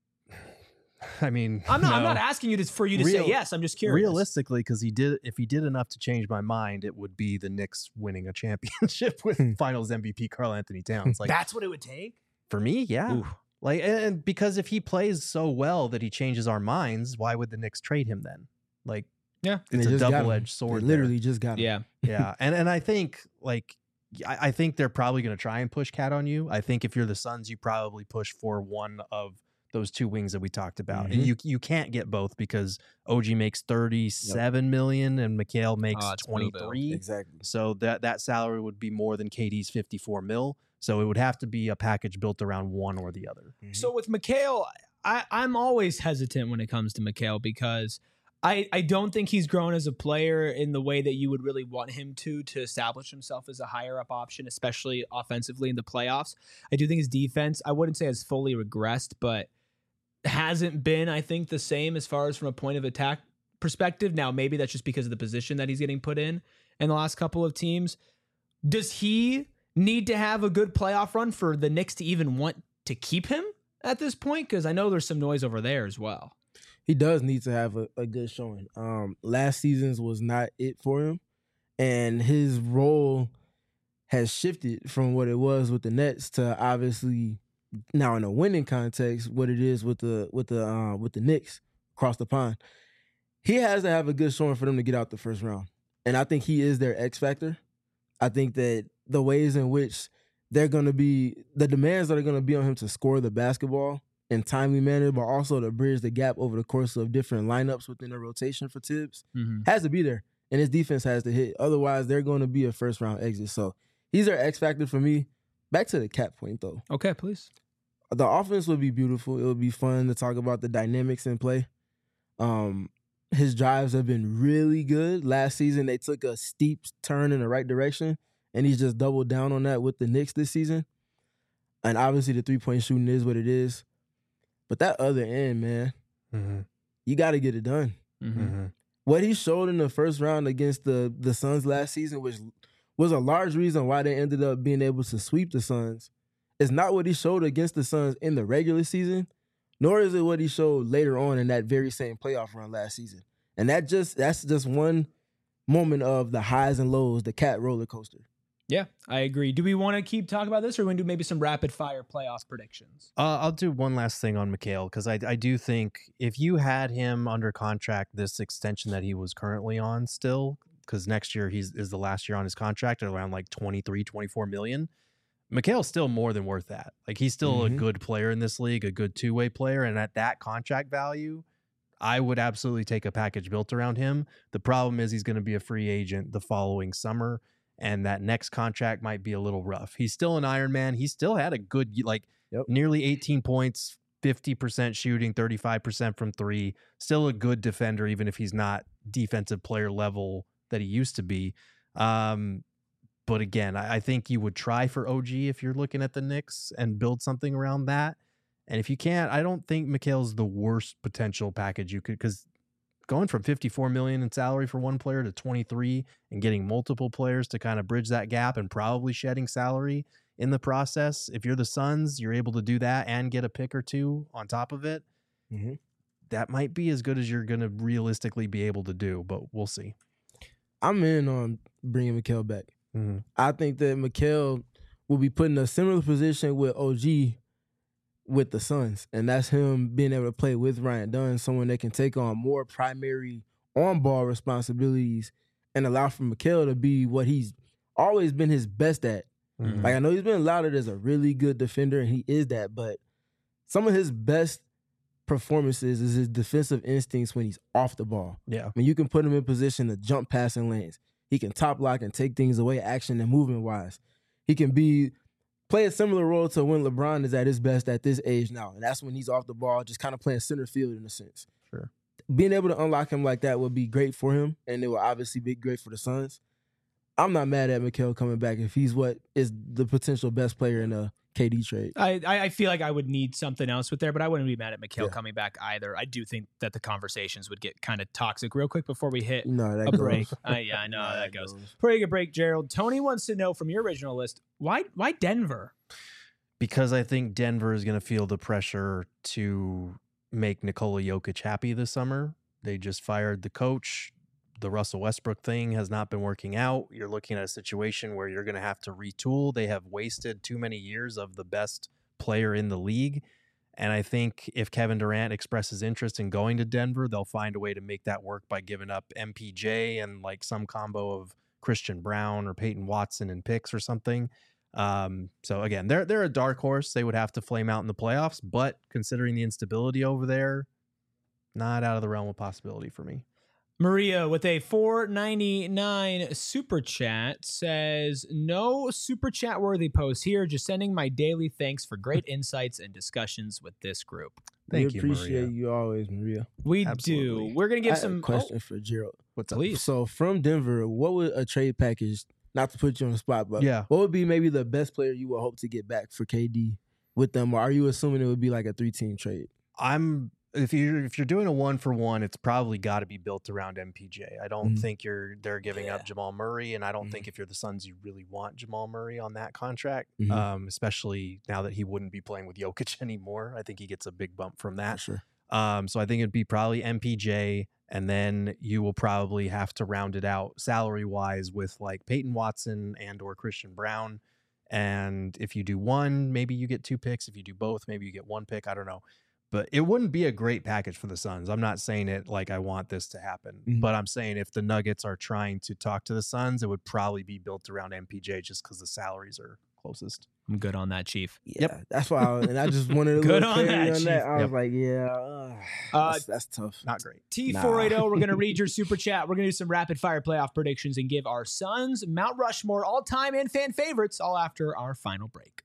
B: I mean,
A: I'm not.
B: no.
A: I'm not asking you to, for you to
B: Real,
A: say yes. I'm just curious.
B: Realistically, because he did, if he did enough to change my mind, it would be the Knicks winning a championship with Finals M V P Karl Anthony Towns. Like
A: that's what it would take
B: for me. Yeah. Ooh. Like, and because if he plays so well that he changes our minds, why would the Knicks trade him then? Like,
A: yeah,
B: it's a double-edged sword.
C: They literally
B: there.
C: just got him.
A: Yeah,
B: yeah, and and I think like. I, I think they're probably going to try and push Cat on you. I think if you're the Suns, you probably push for one of those two wings that we talked about,
C: Mm-hmm.
B: and you you can't get both because O G makes thirty-seven yep. million and Mikal makes
A: oh,
B: twenty-three.
C: Exactly.
B: So that that salary would be more than K D's fifty-four mil. So it would have to be a package built around one or the other.
A: Mm-hmm. So with Mikal, I I'm always hesitant when it comes to Mikal because I, I don't think he's grown as a player in the way that you would really want him to to establish himself as a higher up option, especially offensively in the playoffs. I do think his defense, I wouldn't say has fully regressed, but hasn't been, I think, the same as far as from a point of attack perspective. Now, maybe that's just because of the position that he's getting put in in the last couple of teams. Does he need to have a good playoff run for the Knicks to even want to keep him at this point? Because I know there's some noise over there as well.
C: He does need to have a, a good showing. Um, last season's was not it for him, and his role has shifted from what it was with the Nets to obviously now in a winning context what it is with the with the uh, with the Knicks across the pond. He has to have a good showing for them to get out the first round, and I think he is their X factor. I think that the ways in which they're going to be, the demands that are going to be on him to score the basketball in timely manner, but also to bridge the gap over the course of different lineups within the rotation for Tibbs, mm-hmm. has to be there. And his defense has to hit. Otherwise, they're going to be a first-round exit. So he's their X factor for me. Back to the Cat point, though.
A: Okay, please.
C: The offense would be beautiful. It would be fun to talk about the dynamics in play. Um, his drives have been really good. Last season, they took a steep turn in the right direction, and he's just doubled down on that with the Knicks this season. And obviously, the three-point shooting is what it is. But that other end, man, mm-hmm. you got to get it done. Mm-hmm. What he showed in the first round against the, the Suns last season, which was a large reason why they ended up being able to sweep the Suns, is not what he showed against the Suns in the regular season, nor is it what he showed later on in that very same playoff run last season. And that just that's just one moment of the highs and lows, the Cat roller coaster.
A: Yeah, I agree. Do we want to keep talking about this, or we want to do maybe some rapid fire playoff predictions?
B: Uh, I'll do one last thing on Mikal, because I, I do think if you had him under contract, this extension that he was currently on still, because next year he's is the last year on his contract at around like twenty-three, twenty-four million. Mikal's still more than worth that. Like, he's still mm-hmm. a good player in this league, a good two-way player, and at that contract value, I would absolutely take a package built around him. The problem is he's going to be a free agent the following summer, and that next contract might be a little rough. He's still an Iron Man. He still had a good, like, yep. nearly eighteen points, fifty percent shooting, thirty-five percent from three. Still a good defender, even if he's not defensive player level that he used to be. Um, but again, I, I think you would try for O G if you're looking at the Knicks and build something around that. And if you can't, I don't think Mikal's the worst potential package you could, because going from fifty-four million dollars in salary for one player to twenty-three and getting multiple players to kind of bridge that gap and probably shedding salary in the process. If you're the Suns, you're able to do that and get a pick or two on top of it. Mm-hmm. That might be as good as you're going to realistically be able to do, but we'll see.
C: I'm in on bringing Mikal back.
B: Mm-hmm.
C: I think that Mikal will be put in a similar position with O G with the Suns, and that's him being able to play with Ryan Dunn, someone that can take on more primary on-ball responsibilities and allow for Mikal to be what he's always been his best at. Mm-hmm. Like, I know he's been lauded as a really good defender, and he is that, but some of his best performances is his defensive instincts when he's off the ball.
B: Yeah.
C: I mean, you can put him in position to jump passing lanes. He can top lock and take things away action and movement-wise. He can be play a similar role to when LeBron is at his best at this age now, and that's when he's off the ball, just kind of playing center field in a sense.
B: Sure.
C: being able to unlock him like that would be great for him, and it will obviously be great for the Suns. I'm not mad at Mikal coming back if he's what is the potential best player in a K D trade.
A: I, I feel like I would need something else with there, but I wouldn't be mad at Mikal
C: Yeah.
A: coming back either. I do think that the conversations would get kind of toxic real quick before we hit
C: No, that
A: a
C: goes.
A: break. Uh, yeah, I know
C: Nah,
A: how that
C: that
A: goes.
C: goes.
A: Before we get a break, Gerald, Tony wants to know from your original list, why why Denver?
B: Because I think Denver is going to feel the pressure to make Nikola Jokic happy this summer. They just fired the coach. The Russell Westbrook thing has not been working out. You're looking at a situation where you're going to have to retool. They have wasted too many years of the best player in the league. And I think if Kevin Durant expresses interest in going to Denver, they'll find a way to make that work by giving up M P J and like some combo of Christian Brown or Peyton Watson and picks or something. Um, so again, they're they're a dark horse. They would have to flame out in the playoffs, but considering the instability over there, not out of the realm of possibility for me.
A: Maria with a four ninety-nine super chat says, no super chat worthy post here, just sending my daily thanks for great insights and discussions with this group.
B: Thank
C: we
B: you,
C: appreciate
B: Maria.
C: you always, Maria.
A: We
B: Absolutely.
A: do. We're going to
C: I
A: give
C: have
A: some
C: a question
A: oh,
C: for Gerald.
B: What's up?
A: please.
C: So from Denver, what would a trade package, not to put you on the spot, but
B: Yeah.
C: what would be maybe the best player you would hope to get back for K D with them? Or are you assuming it would be like a three-team trade?
B: I'm if you if you're doing a one for one, it's probably got to be built around M P J. I don't
C: Mhm.
B: think you're they're giving
A: Yeah.
B: up Jamal Murray, and I don't
C: Mhm.
B: think if you're the Suns, you really want Jamal Murray on that contract.
C: Mhm.
B: Um, especially now that he wouldn't be playing with Jokic anymore. I think he gets a big bump from
C: For
B: that.
C: sure.
B: Um, so I think it'd be probably M P J, and then you will probably have to round it out salary wise with like Peyton Watson and or Christian Brown. And if you do one, maybe you get two picks. If you do both, maybe you get one pick. I don't know. But it wouldn't be a great package for the Suns. I'm not saying it like I want this to happen,
C: Mhm.
B: but I'm saying if the Nuggets are trying to talk to the Suns, it would probably be built around M P J just because the salaries are closest.
A: I'm good on that, Chief.
C: Yeah, that's why. I was, and I just wanted a
A: Good
C: little
A: on
C: clarity
A: that,
C: on
A: Chief.
C: that. I was
B: Yep.
C: like, yeah, uh,
A: Uh,
C: that's, that's tough.
B: Not great.
A: T four eighty,
C: Nah.
A: we're going to read your super chat. We're going to do some rapid fire playoff predictions and give our Suns Mount Rushmore all time and fan favorites all after our final break.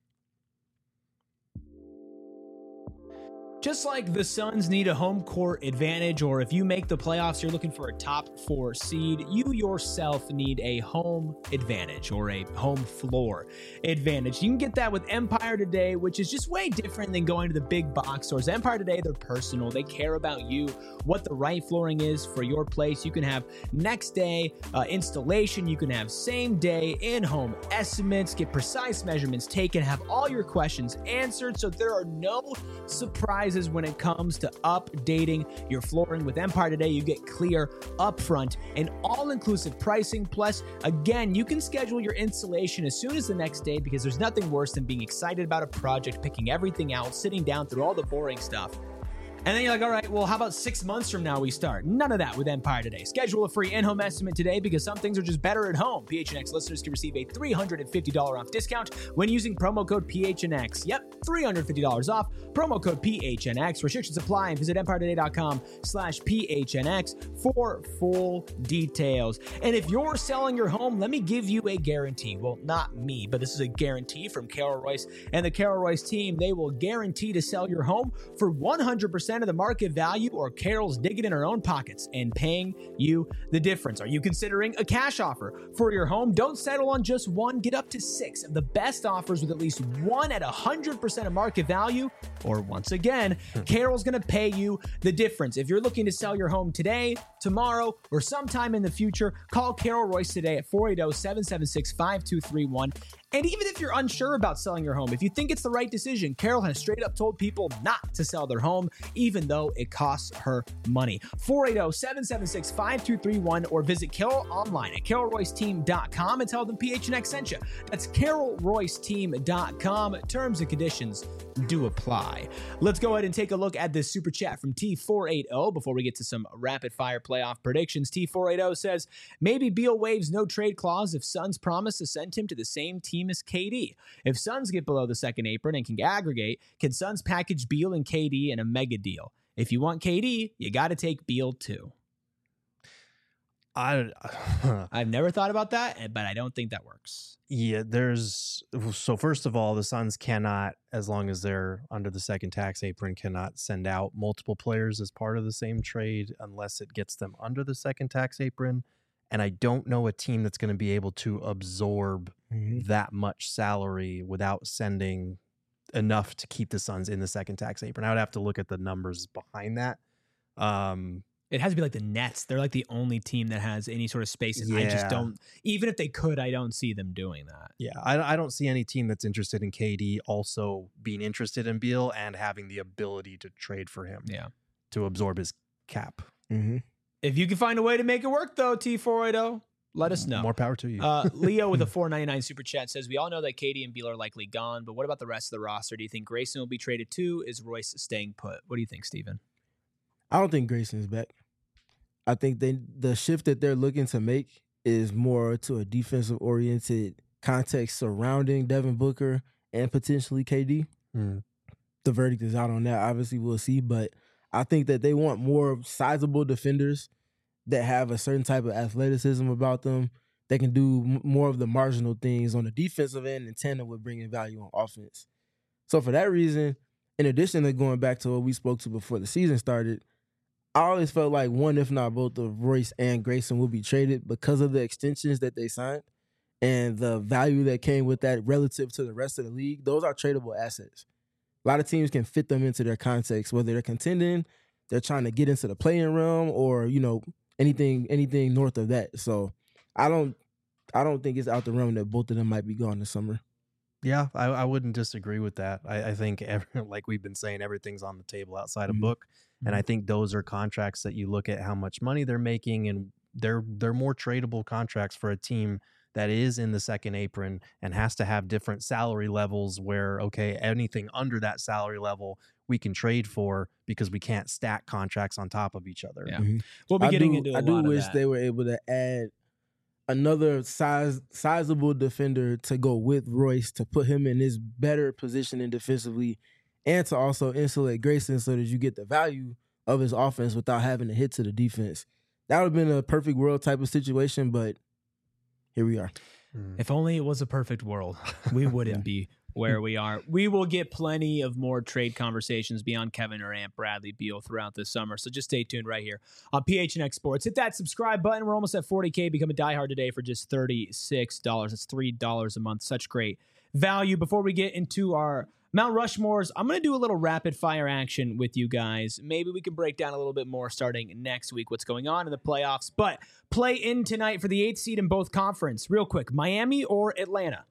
A: Just like the Suns need a home court advantage, or if you make the playoffs, you're looking for a top four seed, you yourself need a home advantage or a home floor advantage. You can get that with Empire Today, which is just way different than going to the big box stores. Empire Today, they're personal. They care about you, what the right flooring is for your place. You can have next day uh, installation. You can have same day in-home estimates, get precise measurements taken, have all your questions answered, so there are no surprises when it comes to updating your flooring. With Empire Today, you get clear, upfront, and all-inclusive pricing. Plus, again, you can schedule your installation as soon as the next day because there's nothing worse than being excited about a project, picking everything out, sitting down through all the boring stuff. And then you're like, all right, well, how about six months from now we start? None of that with Empire Today. Schedule a free in-home estimate today because some things are just better at home. P H N X listeners can receive a three hundred fifty dollars off discount when using promo code P H N X. Yep, three hundred fifty dollars off, promo code P H N X. Restrictions apply and visit empiretoday.com slash PHNX for full details. And if you're selling your home, let me give you a guarantee. Well, not me, but this is a guarantee from Carol Royce and the Carol Royce team. They will guarantee to sell your home for one hundred percent of the market value, or Carol's digging in her own pockets and paying you the difference. Are you considering a cash offer for your home? Don't settle on just one. Get up to six of the best offers with at least one at one hundred percent of market value, or once again, Carol's going to pay you the difference. If you're looking to sell your home today, tomorrow, or sometime in the future, call Carol Royce today at four eight zero, seven seven six, five two three one. And even if you're unsure about selling your home, if you think it's the right decision, Carol has straight up told people not to sell their home, even though it costs her money. four eight zero, seven seven six, five two three one, or visit Carol online at carol royce team dot com and tell them P H N X sent you. That's carol royce team dot com. Terms and conditions do apply. Let's go ahead and take a look at this super chat from T four eighty before we get to some rapid fire playoff predictions. T four eighty says, maybe Beal waives no trade clause if Suns promise to send him to the same team as K D. If Suns get below the second apron and can aggregate, can Suns package Beal and K D in a mega deal? If you want K D, you got to take Beal too.
B: I,
A: I've never thought about that, but I don't think that works.
B: yeah, there's so first of all, the Suns cannot, as long as they're under the second tax apron, cannot send out multiple players as part of the same trade unless it gets them under the second tax apron. And I don't know a team that's going to be able to absorb
C: Mm-hmm.
B: that much salary without sending enough to keep the Suns in the second tax apron. I would have to look at the numbers behind that. Um,
A: It has to be like the Nets. They're like the only team that has any sort of space. And I just
B: Yeah.
A: don't, even if they could, I don't see them doing that.
B: Yeah, I, I don't see any team that's interested in K D also being interested in Beal and having the ability to trade for him
A: Yeah.
B: to absorb his cap.
C: Mm-hmm.
A: If you can find a way to make it work, though, T four eighty, let us know.
B: More power to you.
A: Uh, Leo with a four ninety-nine super chat says, we all know that K D and Beal are likely gone, but what about the rest of the roster? Do you think Grayson will be traded too? Is Royce staying put? What do you think, Steven?
C: I don't think Grayson's back. I think they the shift that they're looking to make is more to a defensive oriented context surrounding Devin Booker and potentially K D.
B: Mm.
C: The verdict is out on that. Obviously, we'll see, but I think that they want more sizable defenders that have a certain type of athleticism about them. They can do m- more of the marginal things on the defensive end in tandem with bringing value on offense. So for that reason, in addition to going back to what we spoke to before the season started, I always felt like one, if not both, of Royce and Grayson will be traded because of the extensions that they signed and the value that came with that relative to the rest of the league. Those are tradable assets. A lot of teams can fit them into their context, whether they're contending, they're trying to get into the playing realm, or, you know, anything anything north of that. So I don't I don't think it's out the realm that both of them might be gone this summer.
B: Yeah, I, I wouldn't disagree with that. I, I think, every, like we've been saying, everything's on the table outside of
C: Mhm.
B: Book. And I think those are contracts that you look at how much money they're making, and they're they're more tradable contracts for a team that is in the second apron and has to have different salary levels where, okay, anything under that salary level we can trade for because we can't stack contracts on top of each other.
A: Yeah.
C: Mhm.
A: We'll be
C: I
A: getting
C: do,
A: into a
C: I do
A: lot of
C: wish
A: that.
C: they were able to add another size sizable defender to go with Royce to put him in his better positioning defensively, and to also insulate Grayson so that you get the value of his offense without having to hit to the defense. That would have been a perfect world type of situation, but here we are.
A: If only it was a perfect world, we wouldn't be where we are. We will get plenty of more trade conversations beyond Kevin Durant, Bradley Beal throughout this summer. So just stay tuned right here on P H N X Sports. Hit that subscribe button. We're almost at forty K. Become a diehard today for just thirty-six dollars. That's three dollars a month. Such great value. Before we get into our Mount Rushmores, I'm going to do a little rapid fire action with you guys. Maybe we can break down a little bit more starting next week what's going on in the playoffs. But play in tonight for the eighth seed in both conference. Real quick, Miami or Atlanta?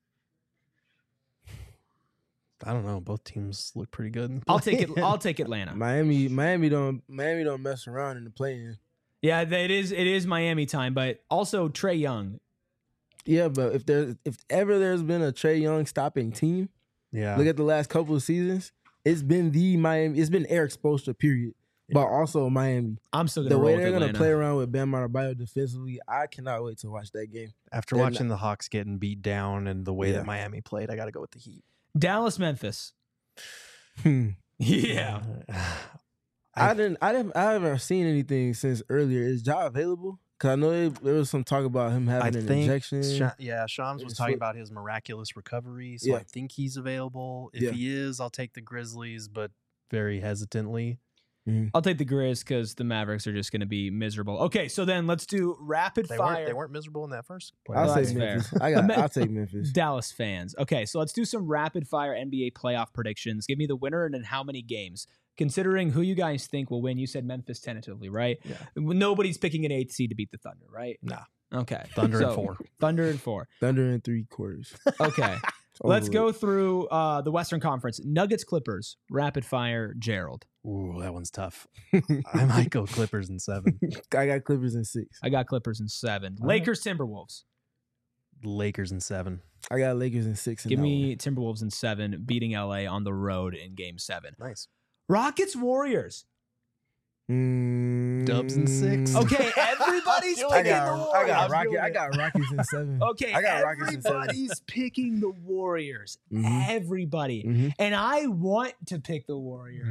B: I don't know. Both teams look pretty good.
A: I'll take it. I'll take Atlanta.
C: Miami, Miami don't Miami don't mess around in the play-in.
A: Yeah, it is. It is Miami time, but also Trae Young.
C: Yeah, but if there's if ever there's been a Trae Young stopping team,
B: Yeah.
C: look at the last couple of seasons. It's been the Miami. It's been Eric Spoelstra, period. But also Miami.
A: I'm still gonna
C: The
A: roll
C: way
A: with
C: they're gonna
A: Atlanta.
C: play around with Bam Adebayo defensively, I cannot wait to watch that game.
B: After
C: they're
B: watching the Hawks getting beat down and the way
C: Yeah.
B: that Miami played, I got to go with the Heat.
A: Dallas, Memphis.
C: Hmm.
A: Yeah.
C: I didn't. I didn't. I haven't seen anything since earlier. Is Ja available? Because I know there, there was some talk about him
B: I
C: having an
B: think,
C: injection.
B: Sha- yeah, Shams
C: in
B: was
C: his
B: talking
C: foot.
B: about his miraculous recovery, so I
C: Yeah.
B: think he's available. If
C: Yeah.
B: he is, I'll take the Grizzlies, but very hesitantly.
A: I'll take the Grizz because the Mavericks are just going to be miserable. Okay, so then let's do rapid
B: They
A: fire.
B: weren't. They weren't miserable in that first.
C: I'll
A: Well,
C: say
A: that's fair.
C: Memphis. I got.
A: Me-
C: I'll take Memphis.
A: Dallas fans. Okay, so let's do some rapid fire N B A playoff predictions. Give me the winner and then how many games. Considering who you guys think will win, you said Memphis tentatively, right?
B: Yeah.
A: Nobody's picking an eighth seed to beat the Thunder, right?
B: Nah.
A: Okay.
B: Thunder and
A: So,
B: four.
A: Thunder and four.
C: Thunder in three quarters.
A: Okay.
C: It's
A: Let's
C: over
A: go
C: with.
A: through uh, the Western Conference. Nuggets, Clippers, rapid fire, Gerald.
B: Ooh, that one's tough. I might go Clippers in seven.
C: I got Clippers in six.
A: I got Clippers in seven.
B: All right.
A: Lakers, Timberwolves.
B: Lakers in seven.
C: I got Lakers in six. in
A: Give
C: that
A: me Timberwolves in seven, beating L A on the road in game seven.
B: Nice.
A: Rockets, Warriors.
C: one. Mm,
B: Dubs in six.
A: Okay, everybody's
C: I
A: picking
C: got.
A: the
C: I
A: Warriors.
C: got Rocket. I got Rockets in seven.
A: Okay,
C: I got Rockets in seven.
A: everybody's picking the Warriors.
C: Mhm.
A: Everybody.
C: Mhm.
A: And I want to pick the Warriors.
B: Mhm.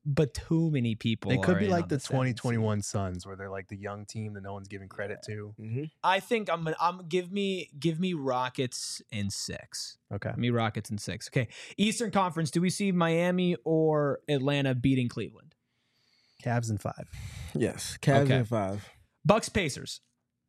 A: but too many people.
B: They could
A: are
B: be
A: in
B: like
A: on
B: the
A: seven
B: twenty
A: seed.
B: twenty-one Suns, where they're like the young team that no one's giving credit to.
C: Mm-hmm.
A: I think I'm gonna. I'm give me give me Rockets in six.
B: Okay.
A: Give me Rockets in six. Okay. Eastern Conference. Do we see Miami or Atlanta beating Cleveland?
B: Cavs in five.
C: Yes, Cavs
A: Okay.
C: in five.
A: Bucks Pacers.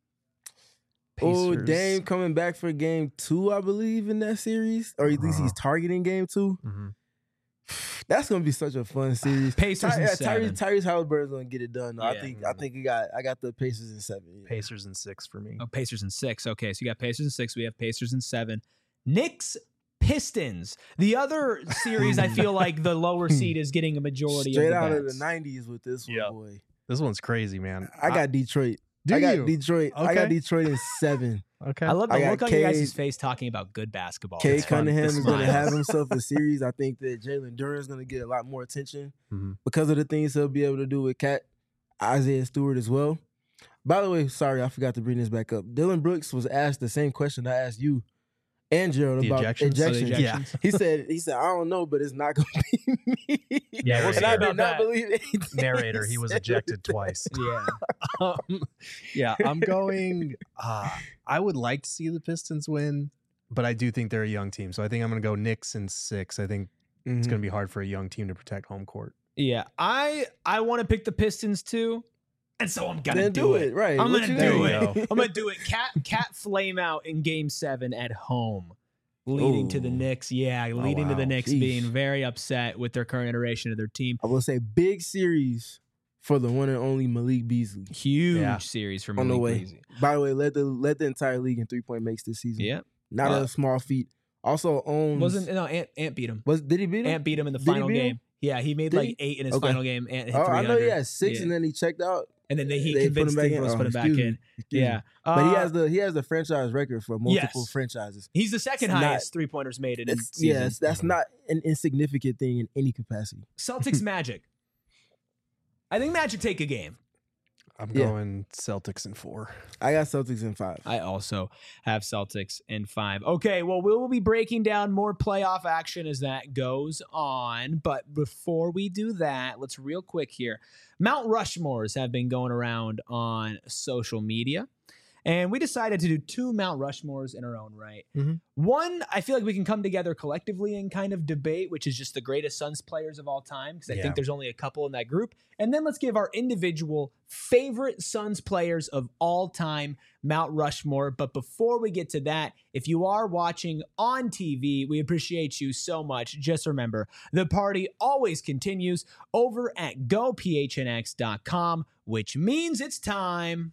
C: Oh,
B: Pacers.
C: Dame coming back for game two, I believe, in that series, or at least he's
B: Uh-huh.
C: targeting game two.
B: Mm-hmm.
C: That's gonna be such a fun series.
A: Pacers
C: Ty-
A: in
C: yeah,
A: seven.
C: Tyrese, Tyrese Halliburton's gonna get it done. I
A: Yeah.
C: think. I think he got. I got the Pacers in seven. Yeah.
B: Pacers in six for me.
A: Oh, Pacers in six. Okay, so you got Pacers in six. We have Pacers in seven. Knicks Pistons. The other series, I feel like the lower seed is getting a majority
C: Straight
A: of the
C: out of the
A: bets.
C: nineties with this one,
B: Yep.
C: boy.
B: This one's crazy, man.
C: I got Detroit.
B: Do
C: I got
B: you?
C: Detroit. I got
B: Okay.
C: Detroit in seven.
B: Okay.
A: I love the
C: I got
A: look on your
C: Cade-
A: guys' face talking about good basketball.
C: Kay
A: It's fun.
C: Cunningham
A: The
C: is going to
A: smiles.
C: have himself a series. I think that Jalen Duren is going to get a lot more attention
B: Mhm.
C: because of the things he'll be able to do with Cat Isaiah Stewart as well. By the way, sorry, I forgot to bring this back up. Dylan Brooks was asked the same question I asked you and Gerald
B: The
C: about
B: ejections?
A: Oh, the
C: ejections.
A: ejections?
C: He said, "He said I don't know, but it's not going to be me."
A: Yeah, we'll
C: and
A: see
C: I
A: about
C: did not
A: that.
C: believe anything.
B: Narrator, he was
C: said.
B: ejected twice.
A: Yeah.
B: um, yeah, I'm going. Uh, I would like to see the Pistons win, but I do think they're a young team. So I think I'm going to go Knicks in six. I think it's
C: Mhm.
B: going to be hard for a young team to protect home court.
A: Yeah. I I want to pick the Pistons too. And so I'm gonna
C: Then
A: do, it.
C: right?
A: I'm
C: What
A: gonna
C: you
A: do
C: mean?
A: it. I'm gonna do it. Cat cat flame out in game seven at home. Leading to the
C: Ooh.
A: Knicks. Yeah, leading to the
C: wow.
A: Knicks
C: Sheesh.
A: being very upset with their current iteration of their team.
C: I will say big series for the one and only Malik Beasley.
A: Huge
B: Yeah.
A: series for
C: On the
A: Malik
C: way.
A: Beasley.
C: By the way, led the led the entire league in three point makes this season.
A: Yeah.
C: Not
A: Uh,
C: a small feat. Also owns.
A: Wasn't no Ant Ant beat him.
C: Was did he beat him?
A: Ant beat him in the
C: Did he
A: final
C: beat him?
A: game. Yeah, he made
C: Did
A: like
C: he?
A: eight in his
C: Okay.
A: final game. Ant hit
C: Oh, I know he
A: three hundred.
C: had six,
A: Yeah.
C: and then he checked out.
A: And then they, he
C: They put him
A: convinced
C: back
A: Steve
C: in.
A: Bruce to
C: Oh,
A: put him back
C: excuse
A: in.
C: me. Excuse
A: Yeah.
C: me. But he
A: Uh,
C: has the he has the franchise record for multiple
A: Yes.
C: franchises.
A: He's the second
C: It's not-
A: highest three pointers made in a
C: It's,
A: season.
C: yes, that's not an insignificant thing in any capacity.
A: Celtics Magic. I think Magic take a game.
B: I'm
C: Yeah.
B: going Celtics in four.
C: I got Celtics in five.
A: I also have Celtics in five. Okay, well, we will be breaking down more playoff action as that goes on. But before we do that, let's real quick here. Mount Rushmores have been going around on social media. And we decided to do two Mount Rushmores in our own right.
B: Mhm.
A: One, I feel like we can come together collectively and kind of debate, which is just the greatest Suns players of all time, because I
B: Yeah.
A: think there's only a couple in that group. And then let's give our individual favorite Suns players of all time Mount Rushmore. But before we get to that, if you are watching on T V, we appreciate you so much. Just remember, the party always continues over at go P H N X dot com, which means it's time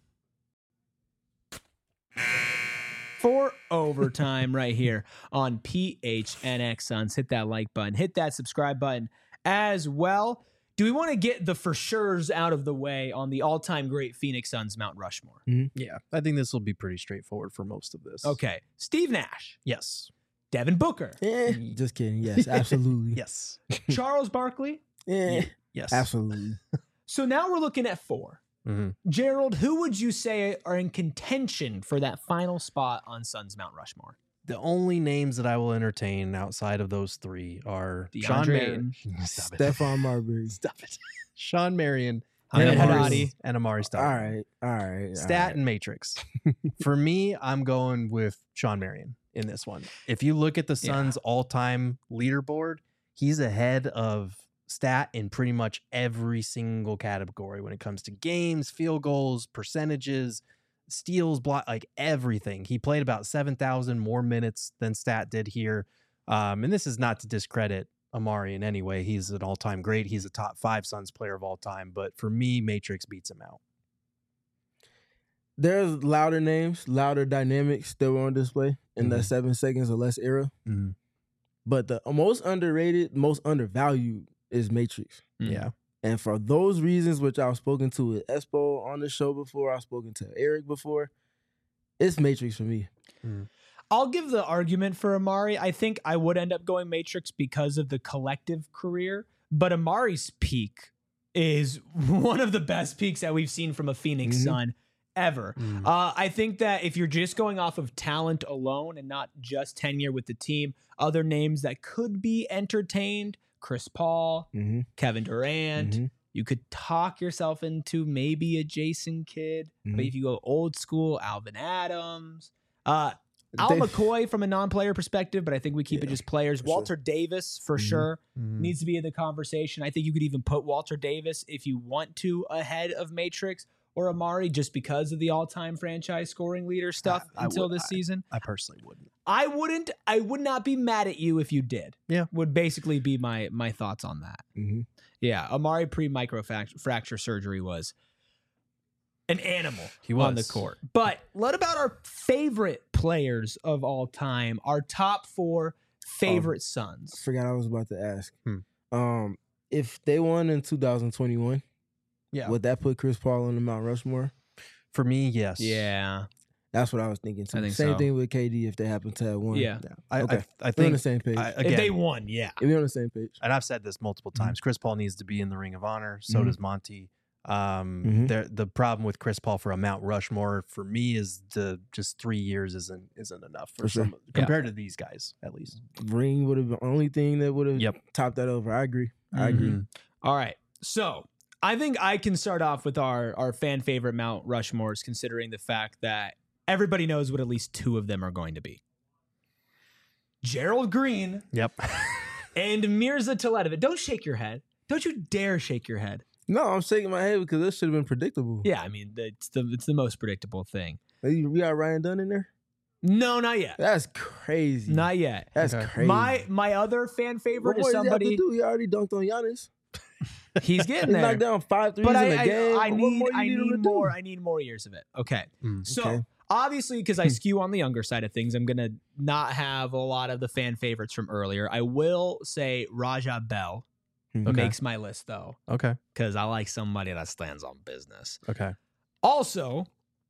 A: for overtime right here on P H N X Suns. Hit that like button, hit that subscribe button as well. Do we want to get the for sure's out of the way on the all-time great Phoenix Suns Mount Rushmore?
B: Yeah, I think this will be pretty straightforward for most of this.
A: Okay. Steve Nash,
B: Yes.
A: Devin Booker,
C: Eh, just kidding. Yes, absolutely.
B: Yes.
A: Charles Barkley.
C: Eh,
B: Yes.
C: absolutely.
A: So now we're looking at four.
B: Mhm.
A: Gerald, who would you say are in contention for that final spot on Suns Mount Rushmore?
B: The only names that I will entertain outside of those three are Sean
A: DeAndre
B: Marion.
A: Ayton.
B: Stop it.
C: Stephon Marbury.
B: Stop it. Sean Marion
A: Ahmed
B: and Amari,
A: Haddadi.
B: and Amari
C: All
B: Stoudemire.
C: right. All right. all
B: Stat
C: right.
B: and Matrix. For me, I'm going with Sean Marion in this one. If you look at the
A: Yeah.
B: Suns' all-time leaderboard, he's ahead of Stat in pretty much every single category when it comes to games, field goals, percentages, steals, block, like everything. He played about seven thousand more minutes than Stat did here. Um, and this is not to discredit Amari in any way. He's an all-time great. He's a top five Suns player of all time. But for me, Matrix beats him out.
C: There's louder names, louder dynamics that were on display in the
B: Mhm.
C: seven seconds or less era.
B: Mhm.
C: But the most underrated, most undervalued is Matrix.
B: Yeah.
C: And for those reasons, which I've spoken to with Espo on the show before, I've spoken to Eric before, it's Matrix for me.
A: I'll give the argument for Amari. I think I would end up going Matrix because of the collective career, but Amari's peak is one of the best peaks that we've seen from a Phoenix
C: Mhm.
A: Sun ever.
B: Mhm.
A: Uh, I think that if you're just going off of talent alone and not just tenure with the team, other names that could be entertained Chris Paul,
C: Mm-hmm.
A: Kevin Durant.
C: Mhm.
A: You could talk yourself into maybe a Jason Kidd, but
C: Mhm.
A: if you go old school, Alvin Adams, uh, Al
C: They-
A: McCoy from a non-player perspective, but I think we keep it
C: Yeah,
A: just players.
C: for sure.
A: Walter Davis for
C: Mhm.
A: sure
B: Mhm.
A: needs to be in the conversation. I think you could even put Walter Davis if you want to ahead of Matrix or Amari just because of the all-time franchise scoring leader stuff
B: I
A: until
B: would-
A: this season.
B: I personally wouldn't.
A: I wouldn't. I would not be mad at you if you did.
B: Yeah.
A: Would basically be my my thoughts on that.
C: Mhm.
A: Yeah, Amari pre micro fracture surgery was an animal
B: He
A: on the
B: was.
A: court. But what about our favorite players of all time? Our top four favorite
C: I
A: Suns.
C: forgot I was about to ask.
B: Hmm.
C: Um, if they won in two thousand twenty-one,
B: Yeah.
C: would that put Chris Paul on the Mount Rushmore?
B: For me, yes.
A: Yeah,
C: That's what I was thinking too.
A: I think
C: Same
A: so.
C: thing with K D if they happen to have won.
A: yeah.
B: Yeah. I,
C: Okay.
B: I, I
C: We're on
B: think
C: the same page.
B: I,
A: If
B: again,
A: they won, yeah.
C: If we're on the same page.
B: and I've said this multiple
C: Mm-hmm.
B: times. Chris Paul needs to be in the Ring of Honor. So
C: Mhm.
B: does Monty. Um,
C: Mhm.
B: there, the problem with Chris Paul for a Mount Rushmore for me is the just three years isn't isn't enough for,
C: For sure.
B: some compared to these guys at least.
C: Ring would have been the only thing that would have
B: Yep.
C: topped that over. I agree. I agree.
B: Mhm.
A: All right. So I think I can start off with our, our fan favorite Mount Rushmores, considering the fact that everybody knows what at least two of them are going to be. Gerald Green
B: Yep.
A: and Mirza Teletovic. Don't shake your head. Don't you dare shake your head.
C: No, I'm shaking my head because this should have been predictable.
A: Yeah, I mean, it's the it's the most predictable thing.
C: Hey, we got Ryan Dunn in there.
A: No, not yet.
C: That's crazy.
A: Not yet.
C: That's
B: Okay.
C: crazy.
A: My my other fan
C: what
A: favorite
C: more
A: is
C: does he have to
A: somebody.
C: do? He already dunked on Giannis.
A: He's
C: He
A: getting there.
C: knocked down five threes
A: But
C: in
A: I,
C: a
A: I,
C: game.
A: I
C: What
A: need,
C: more you
A: I
C: need him
A: need
C: to do?
A: more. I need more years of it. Okay.
B: Mm.
A: So
C: Okay.
A: obviously, because I skew on the younger side of things, I'm gonna not have a lot of the fan favorites from earlier. I will say Raja Bell
C: Okay.
A: makes my list though,
B: Okay.
A: because I like somebody that stands on business.
B: Okay.
A: Also,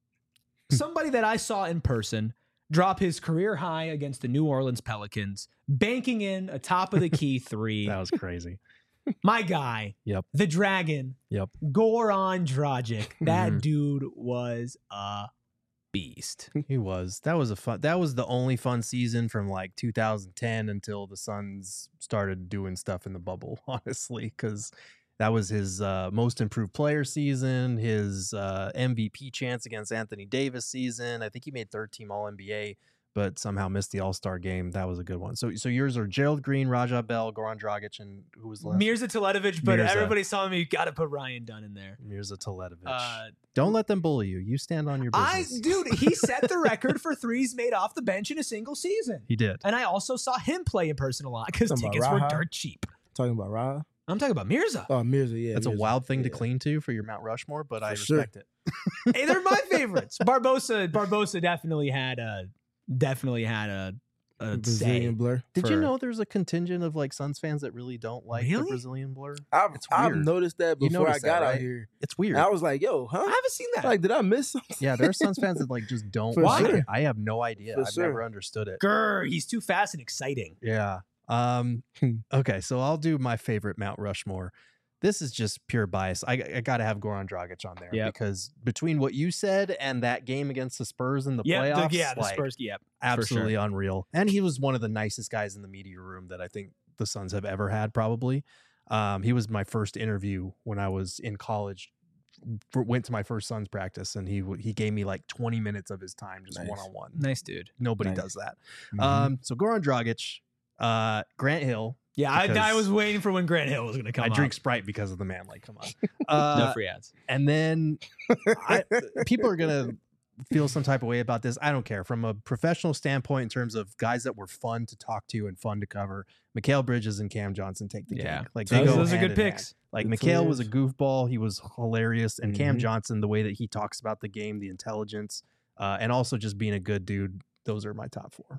A: somebody that I saw in person drop his career high against the New Orleans Pelicans, banking in a top of the key three.
B: That was crazy.
A: My guy,
B: Yep.
A: the Dragon,
B: Yep.
A: Goran Dragic. That
B: Mhm.
A: dude was a beast.
B: He was. That was a fun. That was the only fun season from like two thousand ten until the Suns started doing stuff in the bubble. Honestly, because that was his uh, most improved player season, his uh, M V P chance against Anthony Davis season. I think he made third team All N B A, but somehow missed the All Star game. That was a good one. So, so yours are Gerald Green, Raja Bell, Goran Dragic, and who was the last?
A: Mirza Teletovic, but
B: Mirza.
A: everybody's telling me you got to put Ryan Dunn in there.
B: Mirza Teletovic.
A: Uh,
B: Don't let them bully you. You stand on your
A: I,
B: business.
A: dude, he set the record for threes made off the bench in a single season.
B: He did.
A: And I also saw him play in person a lot because
C: Talking about
A: tickets were
C: Raha?
A: dirt cheap.
C: Talking about Ra.
A: I'm talking about Mirza.
C: Oh, Mirza. Yeah,
B: That's a
C: Mirza.
B: wild thing to
C: Yeah.
B: cling to for your Mount Rushmore, but I
C: For sure.
B: respect it.
A: Hey, they're my favorites. Barbosa, Barbosa definitely had a, definitely had a, a
C: Brazilian
A: say.
C: blur.
B: Did
A: for-
B: you know there's a contingent of like Suns fans that really don't like the
A: Really?
B: Brazilian blur?
C: I've,
B: It's
C: I've
B: weird.
C: noticed that
B: You
C: before I
B: noticed
C: got
B: that,
C: out
B: right?
C: here.
B: It's weird.
C: And I was like, yo, huh?
A: I haven't seen that.
C: Like, did I miss something?
B: Yeah, there are Suns fans that like just don't
C: For
B: like
C: sure.
B: it. I have no idea.
C: For
B: I've
C: sure.
B: never understood it.
A: Grr, he's too fast and exciting.
B: Yeah. Um.
C: Hmm.
B: Okay, so I'll do my favorite Mount Rushmore. This is just pure bias. I, I got to have Goran Dragic on there
A: Yep.
B: because between what you said and that game against the Spurs in the
A: Yeah,
B: playoffs,
A: the, yeah, the
B: like,
A: Spurs. Yeah,
B: absolutely unreal. And he was one of the nicest guys in the media room that I think the Suns have ever had, probably. Um, he was my first interview when I was in college. For, went to my first Suns practice, and he w- he gave me like twenty minutes of his time, just
C: Nice.
B: one on one.
A: nice dude.
B: Nobody
C: Nice.
B: does that.
C: Mhm.
B: Um, so Goran Dragic, uh, Grant Hill.
A: Yeah, I, I
B: Because-
A: was waiting for when Grant Hill was going to come.
B: I
A: up.
B: drink Sprite because of the man. Like, come on. Uh,
A: no free ads.
B: and then I, people are gonna feel some type of way about this. I don't care. From a professional standpoint, in terms of guys that were fun to talk to and fun to cover, Mikal Bridges and Cam Johnson take the
A: Yeah.
B: cake. Like
A: Those,
B: they go
A: those are
B: hand
A: good
B: in hand.
A: picks.
B: Like
C: Good
B: Mikal was a
C: players.
B: goofball. He was hilarious, and Cam
C: Mhm.
B: Johnson, the way that he talks about the game, the intelligence, uh, and also just being a good dude. Those are my top four.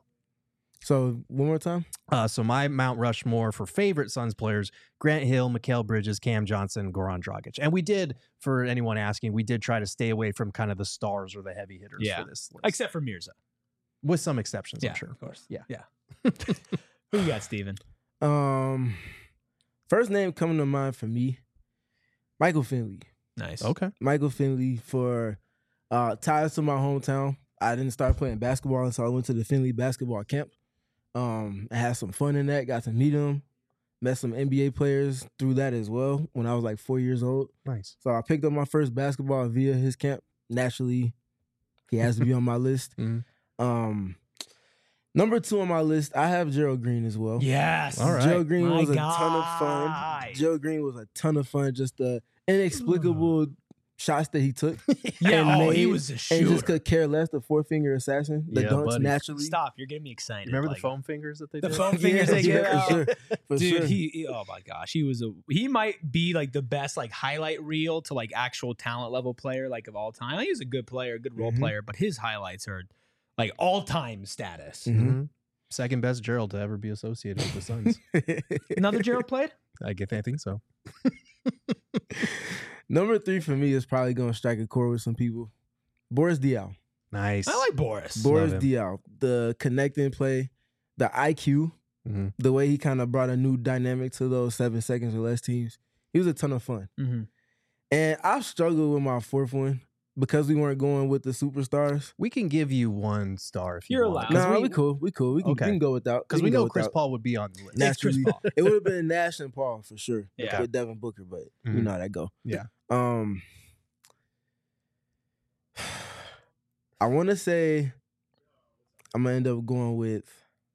C: So, one more time.
B: Uh, so my Mount Rushmore for favorite Suns players: Grant Hill, Mikal Bridges, Cam Johnson, Goran Dragic. And we did, for anyone asking, we did try to stay away from kind of the stars or the heavy hitters
A: Yeah.
B: for this list,
A: Except for Mirza.
B: with some exceptions,
A: Yeah,
B: I'm sure.
A: of course.
B: Yeah.
A: Yeah. Who you got, Steven?
C: Um, First name coming to mind for me, Michael Finley.
A: Nice.
B: Okay.
C: Michael Finley for uh, ties to my hometown. I didn't start playing basketball until I went to the Finley basketball camp. Um, I had some fun in that. Got to meet him, met some N B A players through that as well when I was like four years old.
B: Nice.
C: So I picked up my first basketball via his camp. Naturally, he has to be on my list.
B: Mm-hmm.
C: Um, number two on my list, I have Gerald Green as well.
A: Yes.
B: All right.
C: Gerald Green
A: My
C: was a
A: guy.
C: ton of fun. Gerald Green was a ton of fun. Just the inexplicable shots that he took.
A: Yeah,
C: and
A: oh, he
C: made,
A: was a
C: And
A: shooter.
C: just could care less. The four finger assassin. The
B: Yeah,
C: dunks
B: buddy.
C: naturally.
A: Stop, you're getting me excited.
B: Remember
A: like,
B: the foam fingers that they
A: The
B: did?
A: foam fingers
C: Yeah,
A: they give
C: yeah,
A: out.
C: for sure. For
A: Dude,
C: sure.
A: he, he- oh my gosh, he was a he might be like the best like highlight reel to like actual talent level player like of all time. He was a good player, a good role
C: Mhm.
A: player, but his highlights are like all time status.
C: Mhm.
B: Mhm. Second best Gerald to ever be associated with the Suns.
A: Another Gerald played?
B: I get. I think so.
C: Number three for me is probably going to strike a chord with some people. Boris Diaw.
B: Nice.
A: I like Boris.
C: Boris
B: him.
C: Diaw. The connecting play, the I Q,
B: hmm
C: the way he kind of brought a new dynamic to those seven seconds or less teams. He was a ton of fun.
A: Mm-hmm.
C: And I've struggled with my fourth one because we weren't going with the superstars.
B: We can give you one star if you
A: You're
B: want.
A: allowed.
C: No,
B: Because
C: nah,
B: we,
C: we, cool. We cool. We can,
B: Okay.
C: we can go without.
B: Because we
C: can go
B: know Chris
C: without.
B: Paul would be on the list.
C: Nah.
A: It's Chris
C: Naturally.
A: Paul.
C: It would have been Nash and Paul for sure.
A: Yeah.
C: With Devin Booker, but you
B: Mhm.
C: know how that go.
B: Yeah.
C: Um, I want to say I'm gonna end up going with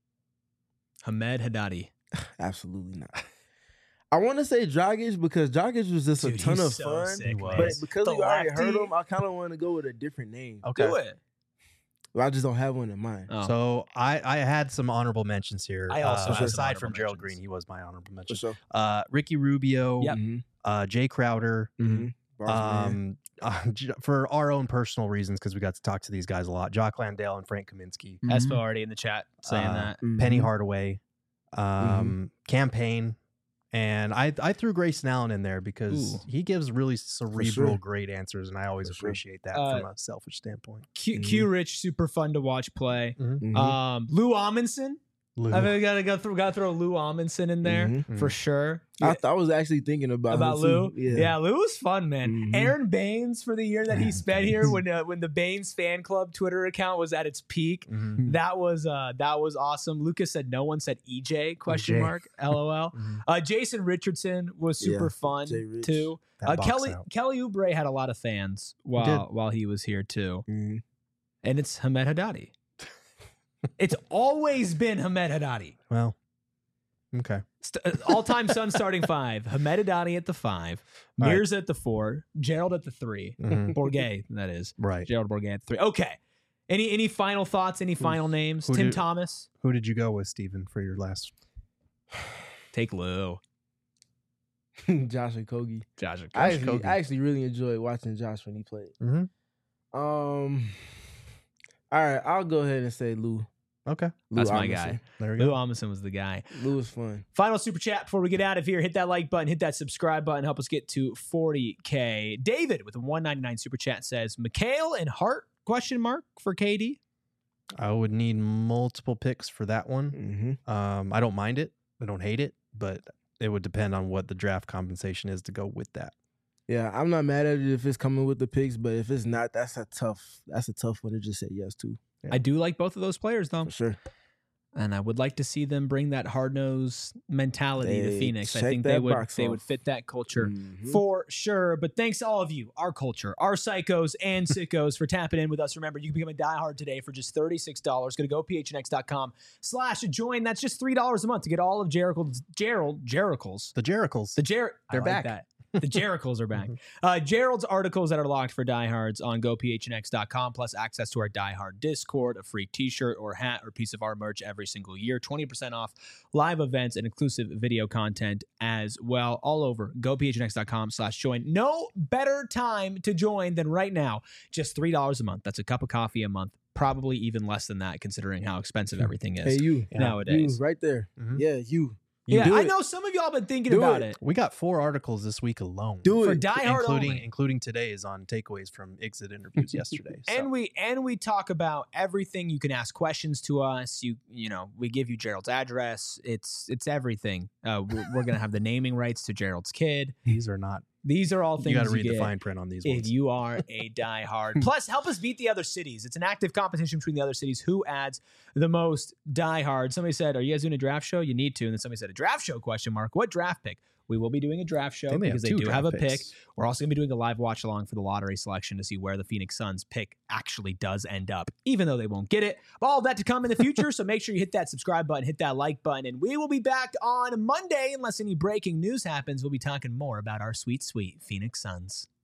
A: Hamed Haddadi.
C: absolutely not. I want to say Dragic because Dragic was just
A: Dude,
C: a ton
A: he's
C: of
A: so
C: fun.
A: sick,
B: He was.
A: man.
C: But because
A: The
C: we already heard
A: lefty.
C: him, I kind of want to go with a different name.
B: Okay.
A: Do it.
C: But I just don't have one in mind.
A: Oh.
B: So I, I had some honorable mentions here.
A: I also
B: Uh,
A: have some
B: aside
A: honorable
B: from Gerald
A: mentions.
B: Green, he was my honorable
C: For
B: mention.
C: sure.
B: Uh, Ricky Rubio,
A: Yep.
C: Mhm.
B: uh, Jay Crowder.
C: Mhm. Boss man.
B: Um, uh, j- for our own personal reasons, because we got to talk to these guys a lot. Jock Landale and Frank Kaminsky,
C: Mhm.
A: Espo already in the chat saying
B: uh,
A: that.
C: Mhm.
B: Penny Hardaway, um, Campaign, and I I threw Grayson Allen in there because
A: Ooh.
B: he gives really cerebral,
C: sure.
B: great answers, and I always
C: For sure.
B: appreciate that
A: Uh,
B: from a selfish standpoint.
A: Q,
C: Mhm.
A: Q Rich, super fun to watch play.
C: Mhm.
A: Um, Lou Amundsen.
B: Lou.
A: I mean, gotta go through, gotta throw Lou Amundsen in there
C: Mhm.
A: for sure.
C: I, th- I was actually thinking about
A: About
C: him
A: Lou,
C: too.
A: yeah. Lou was fun, man.
C: Mhm.
A: Aaron Baines for the year that he
B: Aaron
A: spent
B: Baines.
A: here when uh, when the Baines fan club Twitter account was at its peak.
B: Mhm.
A: That was uh that was awesome. Lucas said no one said E J question
B: E J.
A: mark LOL.
B: Mhm.
A: Uh, Jason Richardson was super
C: Yeah,
A: fun
C: Jay Rich.
A: too.
B: That
A: Uh,
B: box
A: Kelly
B: out.
A: Kelly Oubre had a lot of fans while while he was here too,
C: Mhm.
A: and it's Hamed Haddadi. It's always been Hamed Haddadi.
B: Well, okay.
A: St- uh, all-time Sun starting five. Hamed Haddadi at the five.
B: All right.
A: Mears at the four. Gerald at the three.
B: Mhm.
A: Bourget, that is.
B: Right.
A: Gerald Bourget at the three. Okay. Any any final thoughts? Any final names?
B: who
A: Tim
B: did-
A: Thomas.
B: Who did you go with, Steven, for your last?
A: Take Lou.
C: Josh and Kogi.
A: Josh.
C: I
B: Josh
C: actually,
B: Kogi.
C: I actually really enjoyed watching Josh when he played.
B: Mm-hmm.
C: Um, all right, I'll go ahead and say Lou.
B: Okay.
C: Lou
A: That's my
C: Amundsen.
A: guy.
B: There we
A: Lou
B: go.
A: Amundsen was the guy.
C: Lou was fun.
A: Final super chat before we get out of here. Hit that like button, hit that subscribe button, help us get to forty K. David with a one ninety-nine super chat says, McHale and Hart, question mark, for K D?
B: I would need multiple picks for that one.
C: Mm-hmm.
B: Um, I don't mind it. I don't hate it, but it would depend on what the draft compensation is to go with that.
C: Yeah, I'm not mad at it if it's coming with the picks, but if it's not, that's a tough. That's a tough one to just say yes to
B: Yeah.
A: I do like both of those players, though.
C: for sure.
A: And I would like to see them bring that hard nosed mentality to
C: They
A: Phoenix. I
C: check
A: think they
C: that
A: would
C: box
A: they
C: off.
A: would fit that culture
C: Mhm.
A: for sure. But thanks to all of you, our culture, our psychos and sickos for tapping in with us. Remember, you can become a diehard today for just thirty-six dollars. Go to go p h n x dot com slash join. That's just three dollars a month to get all of Gerald's Gerald Jericles.
B: The Jericles.
A: The Jer
B: They're
A: I like
B: back.
A: That. The Jericles are back. Uh, Gerald's articles that are locked for diehards on go p h n x dot com, plus access to our diehard Discord, a free t-shirt or hat or piece of our merch every single year, twenty percent off live events and exclusive video content as well, all over go p h n x dot com slash join. No better time to join than right now. Just three dollars a month. That's a cup of coffee a month. Probably even less than that, considering how expensive everything is
C: Hey, you.
A: nowadays.
C: You right there.
B: Mhm.
C: Yeah, you.
A: Yeah,
C: do
A: I
C: it.
A: know some of y'all been thinking
C: Do
A: about
C: it.
A: it.
B: We got four articles this week alone.
C: Do
A: For
C: it.
A: diehard
B: including
A: only.
B: including today's on takeaways from exit interviews yesterday. So.
A: And we and we talk about everything. You can ask questions to us. You you know we give you Gerald's address. It's it's everything. Uh, we're, we're gonna have the naming rights to Gerald's kid.
B: these are not
A: These are all things
B: You got to
A: you
B: read the
A: get
B: fine print on these
A: if
B: ones.
A: you are a diehard. Plus, help us beat the other cities. It's an active competition between the other cities. Who adds the most diehard? Somebody said, "Are you guys doing a draft show?" You need to. And then somebody said, "A draft show?" Question mark. What draft pick? We will be doing a draft show
B: They may have
A: because they
B: two
A: do have a
B: draft
A: pick.
B: picks.
A: We're also going to be doing a live watch along for the lottery selection to see where the Phoenix Suns pick actually does end up, even though they won't get it. But all of that to come in the future. So make sure you hit that subscribe button, hit that like button, and we will be back on Monday. Unless any breaking news happens, we'll be talking more about our sweet, sweet Phoenix Suns.